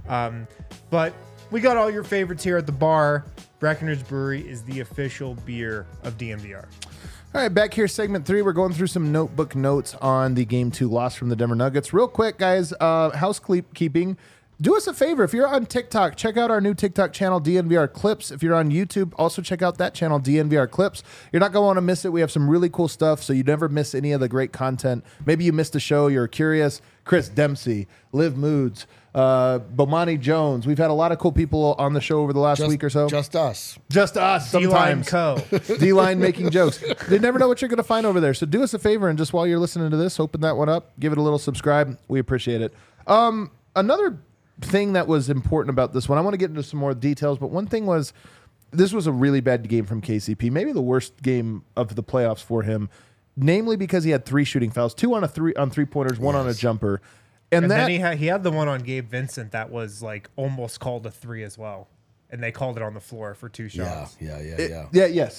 But we got all your favorites here at the bar. Breckenridge Brewery is the official beer of DNVR. All right, back here, segment 3. We're going through some notebook notes on the Game 2 loss from the Denver Nuggets. Real quick, guys, housekeeping. Do us a favor. If you're on TikTok, check out our new TikTok channel, DNVR Clips. If you're on YouTube, also check out that channel, DNVR Clips. You're not going to want to miss it. We have some really cool stuff, so you never miss any of the great content. Maybe you missed a show. You're curious. Chris Dempsey, Liv Moods, Bomani Jones. We've had a lot of cool people on the show over the last week or so. Just us. Just us D-Line sometimes. Co. D-Line making jokes. They never know what you're going to find over there. So do us a favor, and just while you're listening to this, open that one up. Give it a little subscribe. We appreciate it. Another thing that was important about this one, I want to get into some more details, but one thing was, this was a really bad game from KCP, maybe the worst game of the playoffs for him, namely because he had 3 shooting fouls, 2 on three-pointers, 1 on a jumper. And that, then he had the one on Gabe Vincent that was like almost called a 3 as well. And they called it on the floor for 2 shots. Yeah. yes.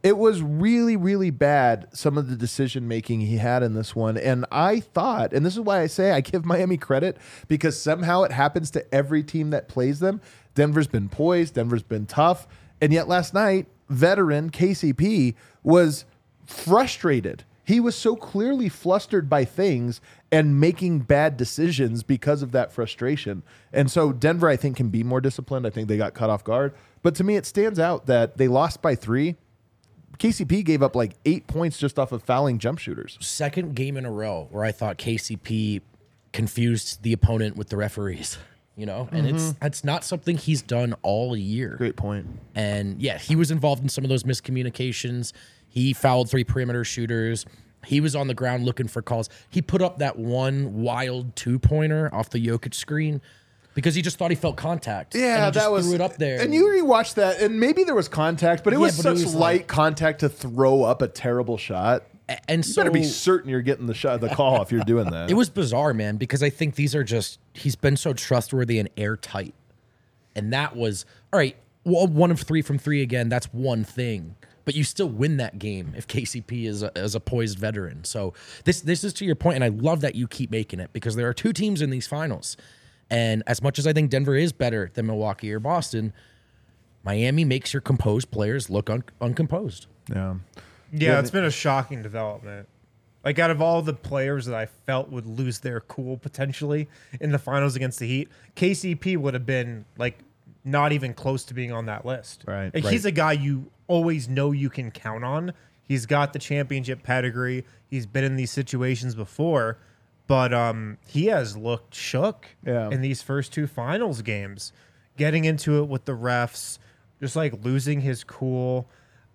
It was really, really bad, some of the decision making he had in this one. And I thought, and this is why I say I give Miami credit, because somehow it happens to every team that plays them. Denver's been poised, Denver's been tough. And yet last night, veteran KCP was frustrated. He was so clearly flustered by things and making bad decisions because of that frustration. And so Denver, I think, can be more disciplined. I think they got caught off guard. But to me, it stands out that they lost by 3. KCP gave up like 8 points just off of fouling jump shooters. Second game in a row where I thought KCP confused the opponent with the referees, you know, and it's not something he's done all year. Great point. And yeah, he was involved in some of those miscommunications. He fouled 3 perimeter shooters. He was on the ground looking for calls. He put up that one wild 2-pointer off the Jokic screen because he just thought he felt contact. Yeah, and he just that was threw it up there. And you rewatched that, and maybe there was contact, but it was but it such was light contact to throw up a terrible shot. And You so better be certain you're getting the call if you're doing that. it was bizarre, man, because I think these are just, he's been so trustworthy and airtight. And that was, all right, well, 1 of 3 from 3 again, that's one thing. But you still win that game if KCP is a poised veteran. So this is to your point, and I love that you keep making it because there are 2 teams in these finals. And as much as I think Denver is better than Milwaukee or Boston, Miami makes your composed players look uncomposed. Yeah. Yeah, it's been a shocking development. Like, out of all the players that I felt would lose their cool potentially in the finals against the Heat, KCP would have been, like, not even close to being on that list. Right. Like, he's a guy you always know you can count on. He's got the championship pedigree. He's been in these situations before. But he has looked shook in these first 2 finals games. Getting into it with the refs, just, like, losing his cool.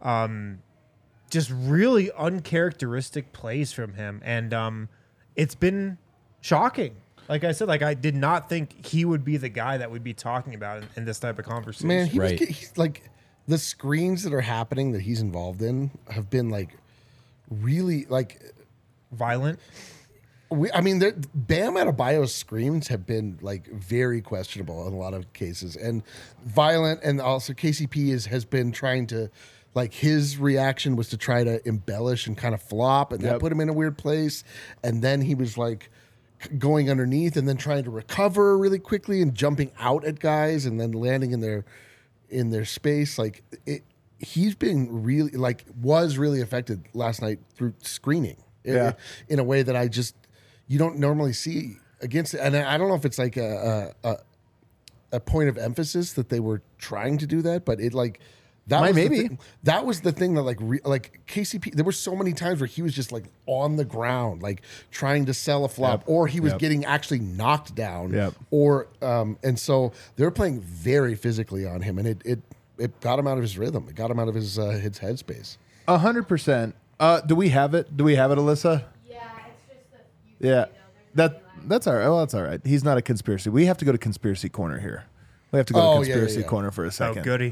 Just really uncharacteristic plays from him. And it's been shocking. Like I said, like I did not think he would be the guy that we'd be talking about in this type of conversation. Man, Right. he's like the screens that are happening that he's involved in have been like really like Violent. I mean, Bam Adebayo's screens have been like very questionable in a lot of cases, and violent, and also KCP has been trying to, like, his reaction was to try to embellish and kind of flop, and that put him in a weird place, and then he was like going underneath and then trying to recover really quickly and jumping out at guys and then landing in their space. Like he's been really was really affected last night through screening in a way that you don't normally see against it. And I don't know if it's like a point of emphasis that they were trying to do that, but it like that was maybe. the thing, that was the thing that like KCP. There were so many times where he was just like on the ground, like trying to sell a flop, or he was getting actually knocked down, or and so they were playing very physically on him, and it got him out of his rhythm. It got him out of his headspace. 100%. Do we have it? Do we have it, Alyssa? Yeah, it's just that you Yeah. know, That's all right. Well, that's all right. He's not a conspiracy. We have to go to conspiracy corner here. We have to go to conspiracy corner for a Oh, second. goody.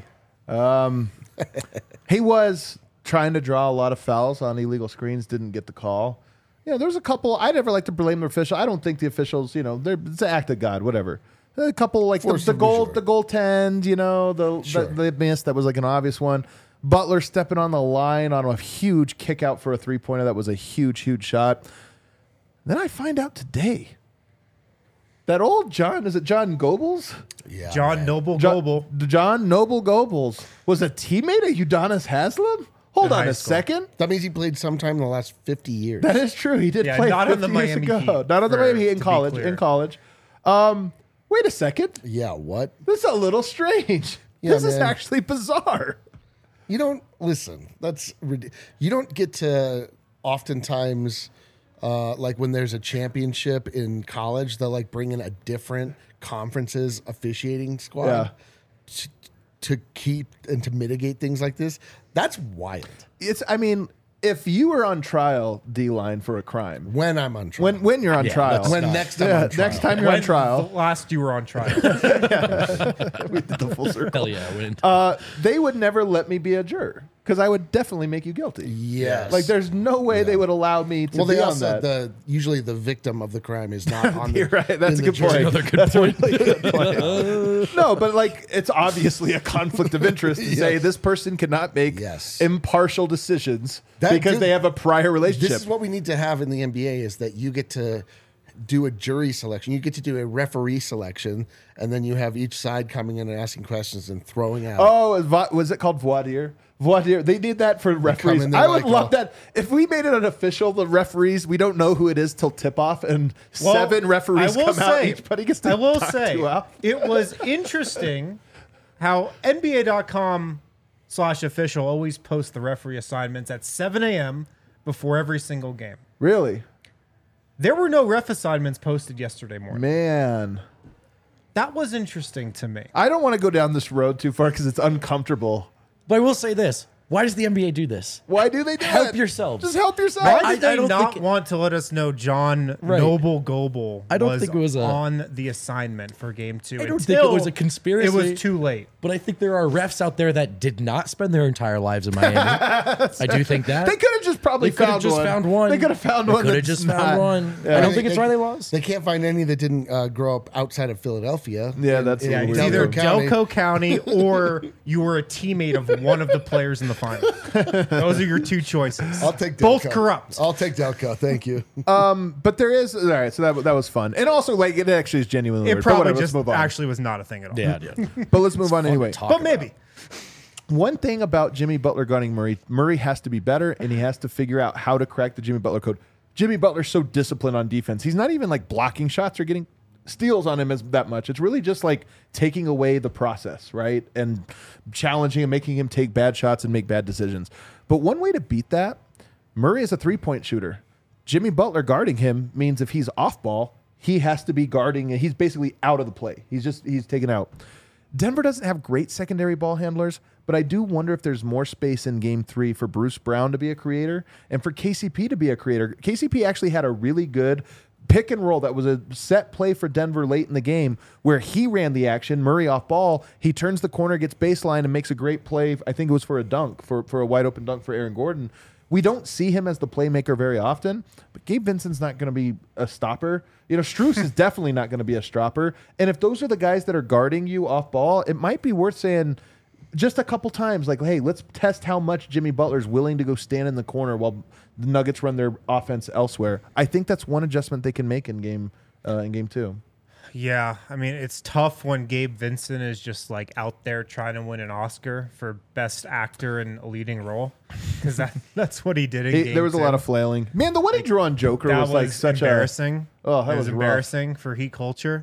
He was trying to draw a lot of fouls on illegal screens, didn't get the call. Yeah, there's a couple. I never like to blame the official. I don't think the officials, it's an act of God, whatever. A couple like the goaltend, the miss that was like an obvious one. Butler stepping on the line on a huge kick out for a 3-pointer. That was a huge, huge shot. Then I find out today that old John Goebbels? Yeah, John Noble Goebel. John Noble Goebbels was a teammate of Udonis Haslem? Hold on high a school. second. that means he played sometime in the last 50 years. That is true. He did Yeah, play not 50 on the years Miami ago. Heat, Not on the for- Miami Heat to in be college. clear. In college. Wait a second. Yeah, what? This is a little strange. Yeah, this is man. actually bizarre. You don't listen. You don't get to oftentimes like when there's a championship in college, they'll like bring in a different conference's officiating squad to keep and to mitigate things like this. That's wild. If you were on trial, D-line, for a crime, When I'm on trial. when you're on trial, when next time I'm on trial. next time you're on When trial, the last you were on trial. we did the full circle. Hell yeah, I win. They would never let me be a juror because I would definitely make you guilty. Yes. Like there's no way they would allow me to Well, be they on also that. usually the victim of the crime is not on the. You're right. That's in a the good jury. point. Another good That's point. a really good point. No, but like it's obviously a conflict of interest to say this person cannot make Yes. impartial decisions That because did- they have a prior relationship. This is what we need to have in the NBA is that you get to do a jury selection. You get to do a referee selection, and then you have each side coming in and asking questions and throwing out. Was it called voir dire? Voir dire. They did that for referees. in there I would like, love that. If we made it unofficial, the referees, we don't know who it is till tip off, and 7 referees come out. Each buddy gets to I will talk say, 2 out. it was interesting how NBA.com/official always posts the referee assignments at 7 a.m. before every single game. Really? There were no ref assignments posted yesterday morning. Man. That was interesting to me. I don't want to go down this road too far because it's uncomfortable. But I will say this. Why does the NBA do this? Why do they do Help that? yourselves. Just help yourself. Why I did they don't not think- want to let us know John Right. Noble Goebel I don't think it was on the assignment for game 2? I don't think it was a conspiracy. It was too late. But I think there are refs out there that did not spend their entire lives in Miami. I do think that. They could have just probably They could have found just one. found one. They could have found one. Could have that's just not- found one. Yeah. I don't think it's why they lost. They can't find any that didn't grow up outside of Philadelphia. Yeah, that's a Yeah, little it's weird. either Delco Delco County or you were a teammate of one of the players in the final. Those are your two choices. I'll take Delco. Both corrupt. I'll take Delco. Thank you. But there is all right. So that was fun, and also like it actually is genuinely. It weird. But probably whatever, let's just move on. actually was not a thing at all. Yeah, yeah. But let's move on anyway. But maybe. One thing about Jimmy Butler guarding Murray, Murray has to be better, and he has to figure out how to crack the Jimmy Butler code. Jimmy Butler's so disciplined on defense. He's not even like blocking shots or getting steals on him as that much. It's really just like taking away the process, right? And challenging him, making him take bad shots and make bad decisions. But one way to beat that, Murray is a three-point shooter. Jimmy Butler guarding him means if he's off ball, he has to be guarding. He's basically out of the play. He's taken out. Denver doesn't have great secondary ball handlers, but I do wonder if there's more space in game 3 for Bruce Brown to be a creator and for KCP to be a creator. KCP actually had a really good pick and roll that was a set play for Denver late in the game where he ran the action, Murray off ball, he turns the corner, gets baseline, and makes a great play. I think it was for a dunk, for a wide open dunk for Aaron Gordon. We don't see him as the playmaker very often, but Gabe Vincent's not going to be a stopper. You know, Strus is definitely not going to be a stopper. And if those are the guys that are guarding you off ball, it might be worth saying just a couple times, like, hey, let's test how much Jimmy Butler's willing to go stand in the corner while the Nuggets run their offense elsewhere. I think that's one adjustment they can make in game 2. Yeah, I mean, it's tough when Gabe Vincent is just like out there trying to win an Oscar for best actor in a leading role because that's what he did in game There was a 2. lot of flailing. Man, the one he drew on Joker That was like such embarrassing. Oh, that It was rough. embarrassing for Heat culture.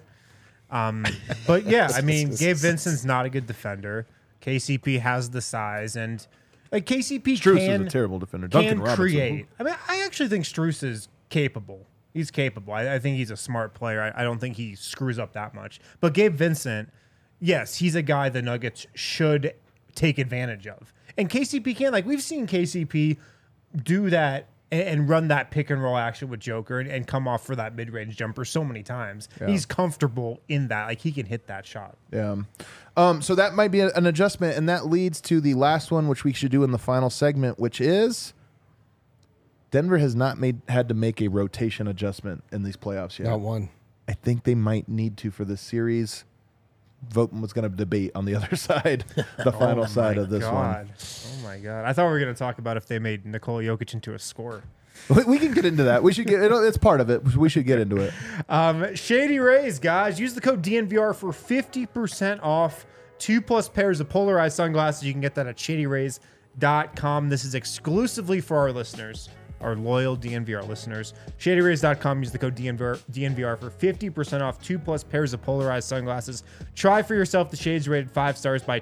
But yeah, I mean, Gabe Vincent's not a good defender. KCP has the size, and like KCP Strus can is a terrible defender. Duncan Robinson. create. I mean, I actually think Strus is capable. He's capable. I think he's a smart player. I don't think he screws up that much. But Gabe Vincent, yes, he's a guy the Nuggets should take advantage of. And KCP can. Like, we've seen KCP do that and run that pick and roll action with Joker and come off for that mid-range jumper so many times. Yeah. He's comfortable in that. Like, he can hit that shot. Yeah. So that might be an adjustment, and that leads to the last one, which we should do in the final segment, which is Denver has not had to make a rotation adjustment in these playoffs yet. Not one. I think they might need to for this series. Vogt was going to debate on the other side, the final side of this one. Oh, my God. I thought we were going to talk about if they made Nikola Jokic into a scorer. We can get into that. We should get it's part of it. We should get into it. Shady Rays, guys. Use the code DNVR for 50% off 2+ pairs of polarized sunglasses. You can get that at shadyrays.com. This is exclusively for our listeners, our loyal DNVR listeners. Shadyrays.com. Use the code DNVR for 50% off 2+ pairs of polarized sunglasses. Try for yourself the shades rated 5 stars by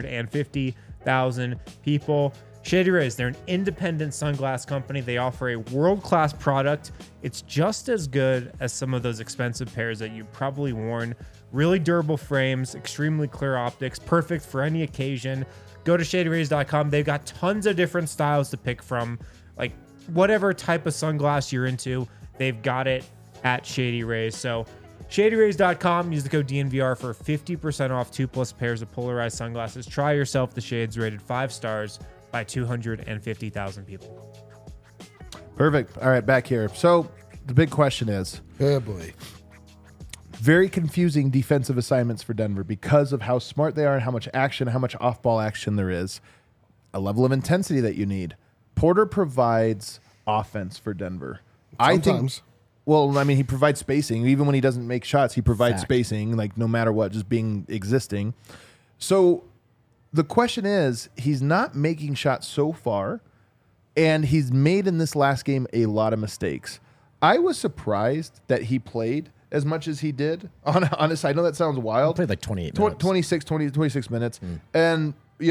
250,000 people. Shady Rays, they're an independent sunglass company. They offer a world-class product. It's just as good as some of those expensive pairs that you've probably worn. Really durable frames, extremely clear optics, perfect for any occasion. Go to shadyrays.com. They've got tons of different styles to pick from. Like, whatever type of sunglass you're into, they've got it at Shady Rays. So shadyrays.com. Use the code DNVR for 50% off 2+ pairs of polarized sunglasses. Try yourself the shades rated 5 stars by 250,000 people. Perfect. All right, back here. So the big question is, Oh boy. very confusing defensive assignments for Denver because of how smart they are and how much action, how much off-ball action there is. A level of intensity that you need. Porter provides offense for Denver. I think. Sometimes. Well, I mean, he provides spacing. Even when he doesn't make shots, he provides Fact. spacing, like no matter what, just being existing. So the question is, he's not making shots so far, and he's made in this last game a lot of mistakes. I was surprised that he played as much as he did. Honest, I know that sounds wild. Played like 28 minutes. 26 minutes. And,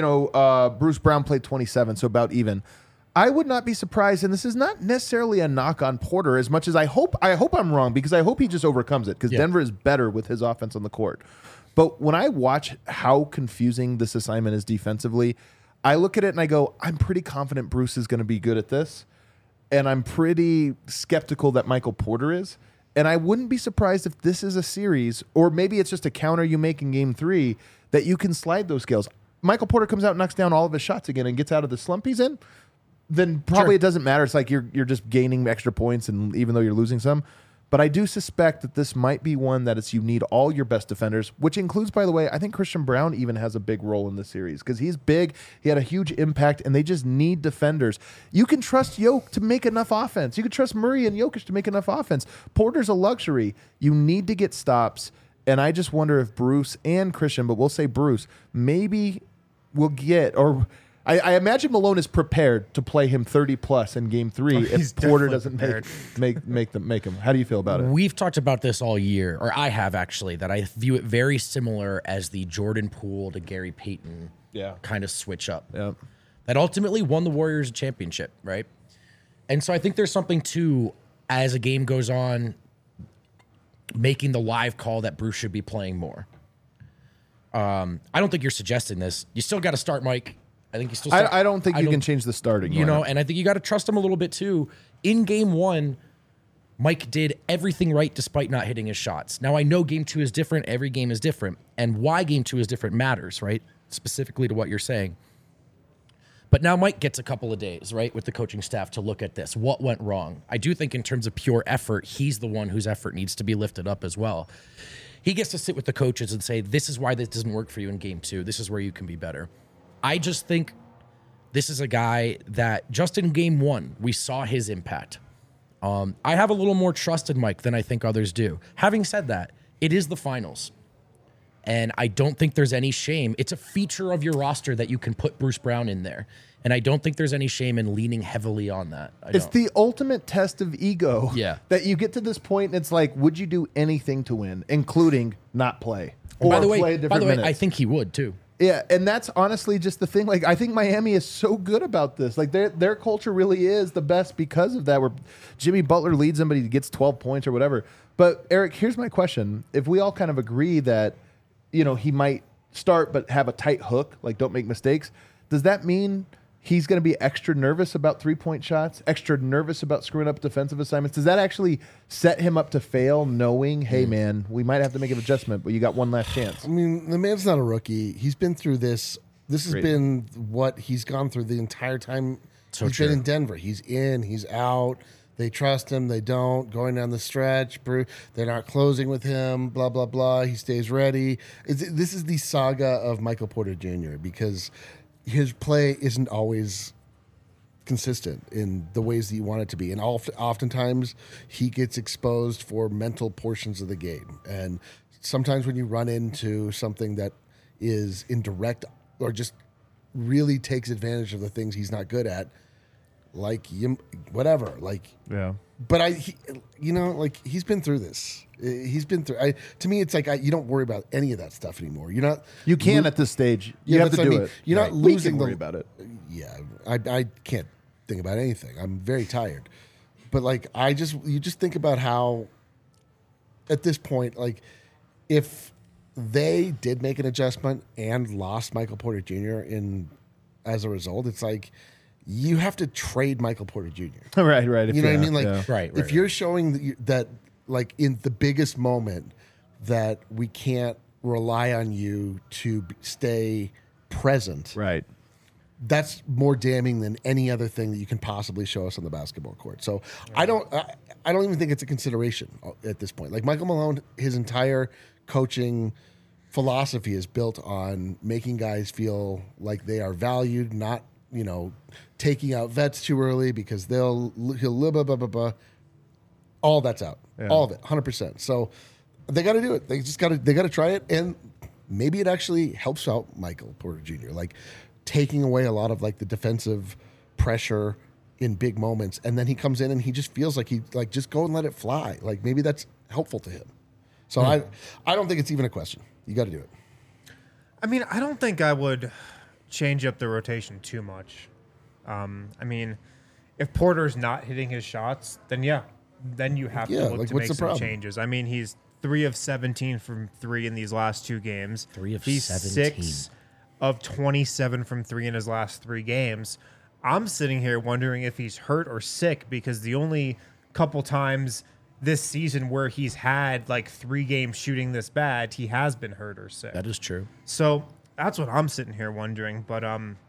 Bruce Brown played 27, so about even. I would not be surprised, and this is not necessarily a knock on Porter as much as I hope I'm wrong, because I hope he just overcomes it, because Denver is better with his offense on the court. But when I watch how confusing this assignment is defensively, I look at it and I go, I'm pretty confident Bruce is going to be good at this, and I'm pretty skeptical that Michael Porter is. And I wouldn't be surprised if this is a series, or maybe it's just a counter you make in game 3, that you can slide those scales. Michael Porter comes out and knocks down all of his shots again and gets out of the slump he's in, then probably it doesn't matter. It's like you're just gaining extra points, and even though you're losing some. But I do suspect that this might be one that it's you need all your best defenders, which includes, by the way, I think Christian Brown even has a big role in this series because he's big. He had a huge impact, and they just need defenders. You can trust Jokic to make enough offense. You can trust Murray and Jokic to make enough offense. Porter's a luxury. You need to get stops, and I just wonder if Bruce and Christian, but we'll say Bruce, maybe will get or. I imagine Malone is prepared to play him 30+ in game 3 if Porter doesn't make him. How do you feel about it? We've talked about this all year, or I have actually, that I view it very similar as the Jordan Poole to Gary Payton kind of switch up. Yeah. That ultimately won the Warriors a championship, right? And so I think there's something to, as a game goes on, making the live call that Bruce should be playing more. I don't think you're suggesting this. You still got to start Mike. I think you still. I don't think you can change the starting. And I think you got to trust him a little bit too. In game 1, Mike did everything right despite not hitting his shots. Now I know game 2 is different. Every game is different, and why game 2 is different matters, right? Specifically to what you're saying. But now Mike gets a couple of days, right, with the coaching staff to look at this. What went wrong? I do think in terms of pure effort, he's the one whose effort needs to be lifted up as well. He gets to sit with the coaches and say, this is why this doesn't work for you in game 2. This is where you can be better. I just think this is a guy that just in game 1, we saw his impact. I have a little more trust in Mike than I think others do. Having said that, it is the finals. And I don't think there's any shame. It's a feature of your roster that you can put Bruce Brown in there. And I don't think there's any shame in leaning heavily on that. It's the ultimate test of ego. Yeah. That you get to this point and it's like, would you do anything to win, including not play? Or By the play way, different minutes? I think he would too. Yeah, and that's honestly just the thing. Like, I think Miami is so good about this. Like, their culture really is the best because of that. Where Jimmy Butler leads them, but he gets 12 points or whatever. But Eric, here's my question: if we all kind of agree that, he might start but have a tight hook, like don't make mistakes, does that mean he's going to be extra nervous about 3-point shots, extra nervous about screwing up defensive assignments? Does that actually set him up to fail, knowing, hey, man, we might have to make an adjustment, but you got one last chance? I mean, the man's not a rookie. He's been through this. This has been what he's gone through the entire time he's been in Denver. He's in, he's out. They trust him. They don't. Going down the stretch, they're not closing with him, blah, blah, blah. He stays ready. This is the saga of Michael Porter Jr. because his play isn't always consistent in the ways that you want it to be. And oftentimes he gets exposed for mental portions of the game. And sometimes when you run into something that is indirect or just really takes advantage of the things he's not good at, like whatever, like, Yeah. but he's been through this. He's been through. To me, it's like you don't worry about any of that stuff anymore. You're not. You can at this stage. You have to do it. You're not losing. We can worry about it. Yeah, I can't think about anything. I'm very tired. But like, you just think about how, at this point, like, if they did make an adjustment and lost Michael Porter Jr. as a result, it's like, you have to trade Michael Porter Jr. Right. You know what I mean? Like, Right. If you're showing that, like, in the biggest moment, that we can't rely on you to stay present, Right. that's more damning than any other thing that you can possibly show us on the basketball court. So I don't even think it's a consideration at this point. Like Michael Malone, his entire coaching philosophy is built on making guys feel like they are valued, not, taking out vets too early because he'll blah, blah, blah, blah. All that's out. Yeah. All of it, 100%. So they got to do it. They got to try it, and maybe it actually helps out Michael Porter Jr. Like taking away a lot of like the defensive pressure in big moments, and then he comes in and he just feels like just go and let it fly. Like maybe that's helpful to him. So I don't think it's even a question. You got to do it. I mean, I don't think I would change up the rotation too much. If Porter's not hitting his shots, then you have to look to make some changes. I mean, he's 3 of 17 from 3 in these last 2 games. 3 of he's 17. 6 of 27 from 3 in his last 3 games. I'm sitting here wondering if he's hurt or sick, because the only couple times this season where he's had like 3 games shooting this bad, he has been hurt or sick. That is true. So that's what I'm sitting here wondering. But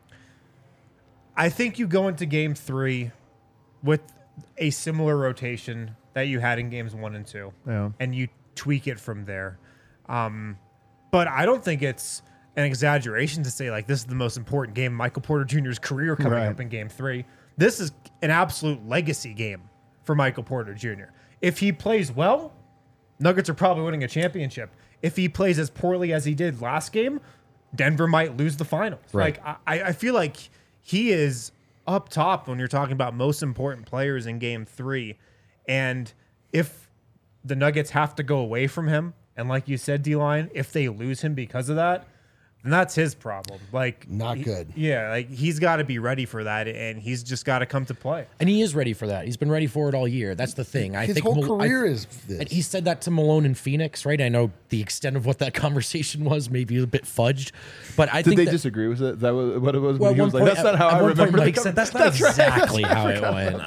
I think you go into game 3 with a similar rotation that you had in games 1 and 2, and you tweak it from there. But I don't think it's an exaggeration to say like this is the most important game of Michael Porter Jr.'s career coming up in game 3. This is an absolute legacy game for Michael Porter Jr. If he plays well, Nuggets are probably winning a championship. If he plays as poorly as he did last game, Denver might lose the finals. Right. Like I feel like he is up top when you're talking about most important players in game 3. And if the Nuggets have to go away from him, and like you said, D-Line, if they lose him because of that, then that's his problem. Like not good. Yeah, like he's got to be ready for that, and he's just got to come to play. And he is ready for that. He's been ready for it all year. That's the thing. His whole career is this. And he said that to Malone in Phoenix, right? I know the extent of what that conversation was maybe a bit fudged, but I think they disagree? Was that what it was? Well, he was like, that's not how I remember. Mike said that's not exactly how it went.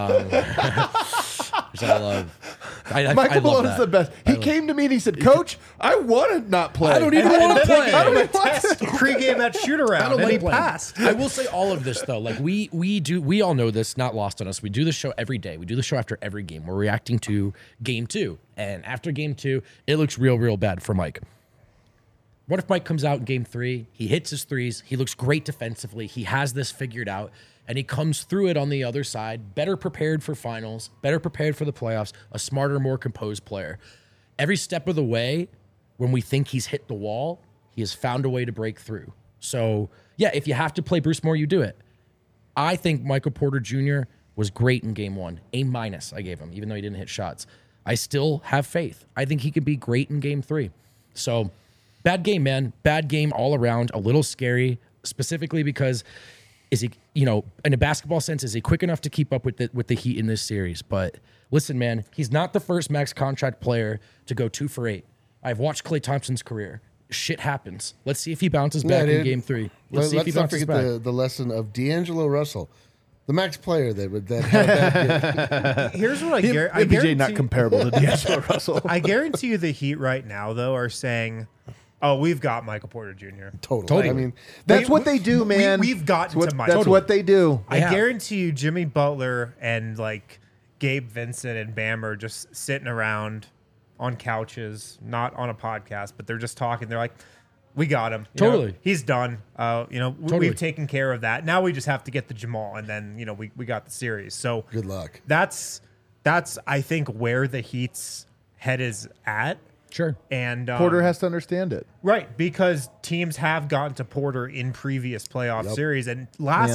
Which I love. Michael Malone is the best. He came to me and he said, "Coach, I want to not play. I don't even want to play. I don't want to test pregame that shoot around, and he passed." I will say all of this though. Like we all know this, not lost on us. We do the show every day. We do the show after every game. We're reacting to game 2, and after game 2, it looks real bad for Mike. What if Mike comes out in game 3? He hits his threes. He looks great defensively. He has this figured out. And he comes through it on the other side, better prepared for finals, better prepared for the playoffs, a smarter, more composed player. Every step of the way, when we think he's hit the wall, he has found a way to break through. So, yeah, if you have to play Bruce Moore, you do it. I think Michael Porter Jr. was great in game 1. A- I gave him, even though he didn't hit shots. I still have faith. I think he could be great in game 3. So, bad game, man. Bad game all around. A little scary, specifically because is he, in a basketball sense, is he quick enough to keep up with the Heat in this series? But listen, man, he's not the first max contract player to go 2 for 8. I've watched Klay Thompson's career. Shit happens. Let's see if he bounces back in game 3. Let's see if he bounces back. The lesson of D'Angelo Russell, the max player that had that game. Here's what I MPJ not comparable to D'Angelo Russell. I guarantee you the Heat right now, though, are saying, "Oh, we've got Michael Porter Jr." Totally. I mean, that's what they do, man. We've gotten to Michael. That's what they do. I guarantee you, Jimmy Butler and like Gabe Vincent and Bam are just sitting around on couches, not on a podcast, but they're just talking. They're like, "We got him. Totally. He's done. We've taken care of that. Now we just have to get the Jamal, and then we got the series. So good luck." That's I think where the Heat's head is at. Sure. And Porter has to understand it. Right, because teams have gotten to Porter in previous playoff series. And last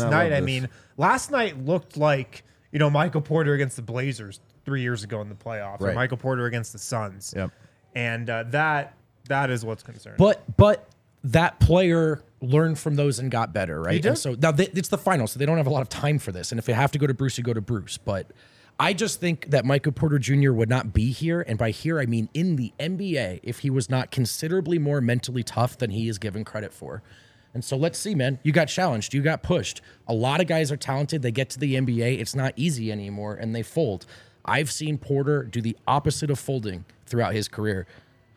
night looked like, Michael Porter against the Blazers 3 years ago in the playoffs, or Michael Porter against the Suns. Yep. And that is what's concerning. But that player learned from those and got better, right? He did. And so now it's the finals, so they don't have a lot of time for this. And if they have to go to Bruce, you go to Bruce. But I just think that Michael Porter Jr. would not be here, and by here I mean in the NBA, if he was not considerably more mentally tough than he is given credit for. And so let's see, man. You got challenged. You got pushed. A lot of guys are talented. They get to the NBA. It's not easy anymore, and they fold. I've seen Porter do the opposite of folding throughout his career.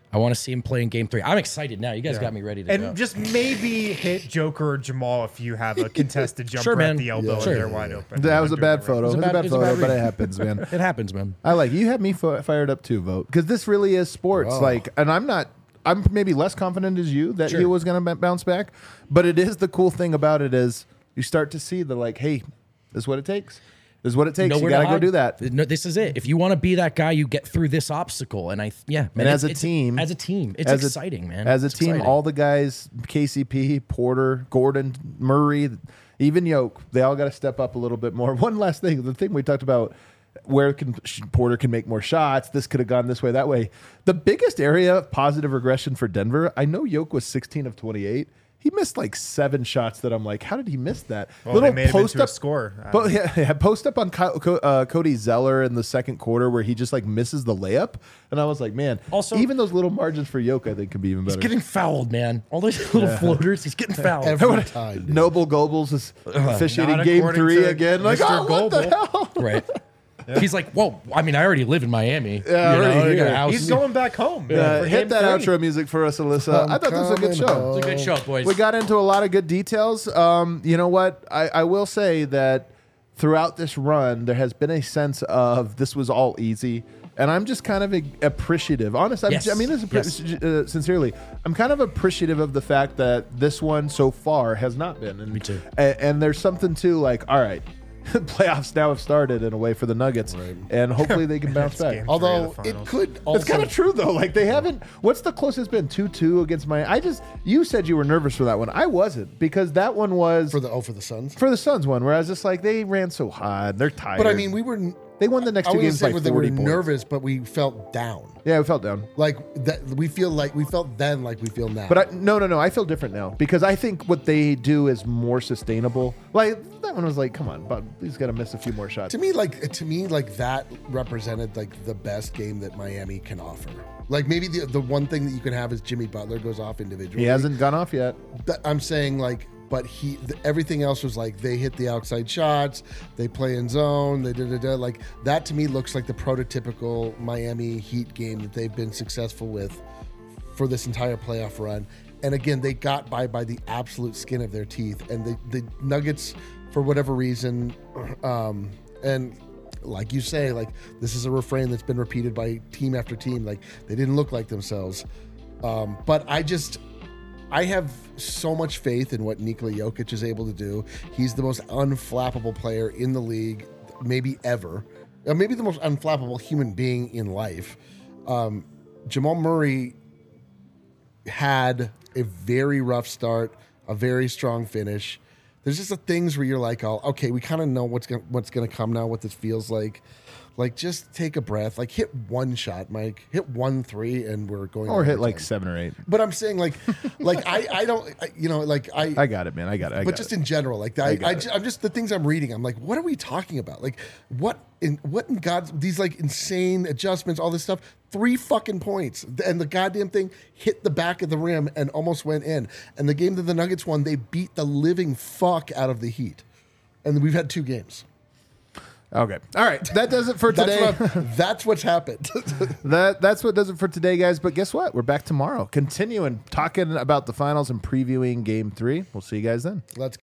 I want to see him play in Game 3. I'm excited now. You guys got me ready to And go. just maybe hit Joker or Jamal if you have a contested jumper Sure, man. at the elbow Sure. and they're wide open. That was a bad photo. photo. It was a bad it's a photo, bad but read. it happens, man. It happens, man. I like you had me fired up too, Vote, because this really is sports. Like, and I'm maybe less confident as you that he Sure. was going to bounce back, but it is the cool thing about it is you start to see the like, hey, this is what it takes. This is what it takes. You Nowhere got to to go hide. do that. No, this is it. If you want to be that guy, you get through this obstacle. And man, And as a it's team, it's exciting, man. As a It's team, exciting. all the guys, KCP, Porter, Gordon, Murray, even Yoke, they all got to step up a little bit more. One last thing, the thing we talked about, where Porter can make more shots. This could have gone this way, that way. The biggest area of positive regression for Denver, I know Yoke was 16 of 28. He missed like 7 shots that I'm like, how did he miss that? Well, they made him into a score. But yeah, post up on Cody Zeller in the second quarter where he just like misses the layup, and I was like, man. Also- even those little margins for Yoke, I think, could be even better. He's getting fouled, man. All those little floaters, he's getting fouled. Every time. Noble Goebbels is officiating Not game according 3 to again. Like, Mr. oh, what the Goebel. hell? Right. He's like, whoa, I mean, I already live in Miami. Yeah, You know, already I got a here. house. He's going back home. for Hit game that 3. outro music for us, Alyssa. I thought this was a good coming show. It's a good show, boys. We got into a lot of good details. You know what? I will say that throughout this run, there has been a sense of this was all easy. And I'm just kind of appreciative. Honest, Yes. I mean this sincerely. I'm kind of appreciative of the fact that this one so far has not been. And, Me too. And there's something to like, all right, playoffs now have started in a way for the Nuggets. And hopefully they can bounce back. game. Although Three of the it finals. could also It's kind of true though. Like they haven't. What's the closest been? 2-2 against Miami. You said you were nervous for that one. I wasn't because that one was for the Suns. for the Suns one, where I was just like they ran so hard. They're tired. But I mean, we were. they won the next I two wouldn't games say by that we 40 were points. nervous, but we felt down. Yeah, we felt down. Like that, we felt then like we feel now. But no. I feel different now because I think what they do is more sustainable. Like that one was like, come on, but he's got to miss a few more shots. to me, like that represented like the best game that Miami can offer. Like maybe the one thing that you can have is Jimmy Butler goes off individually. He hasn't gone off yet. I'm saying like, but everything else was like they hit the outside shots, they play in zone, they like that to me looks like the prototypical Miami Heat game that they've been successful with for this entire playoff run. And again, they got by the absolute skin of their teeth. And the Nuggets, for whatever reason, and like you say, like this is a refrain that's been repeated by team after team. Like they didn't look like themselves. But I have so much faith in what Nikola Jokic is able to do. He's the most unflappable player in the league, maybe ever. Maybe the most unflappable human being in life. Jamal Murray had a very rough start, a very strong finish. There's just the things where you're like, oh, okay, we kind of know what's gonna come now, what this feels like. Like, just take a breath. Like, hit one shot, Mike. Hit 1 3, and we're going. Or hit overtime. like 7 or 8. But I'm saying, like I don't, I got it, man. I got it. but just in general, like I'm just the things I'm reading. I'm like, what are we talking about? Like, what in God's these like insane adjustments, all this stuff. 3 fucking points, and the goddamn thing hit the back of the rim and almost went in. And the game that the Nuggets won, they beat the living fuck out of the Heat. And we've had 2 games. Okay. All right. That does it for today. That's what's happened. That's what does it for today, guys. But guess what? We're back tomorrow, continuing talking about the finals and previewing Game 3. We'll see you guys then. Let's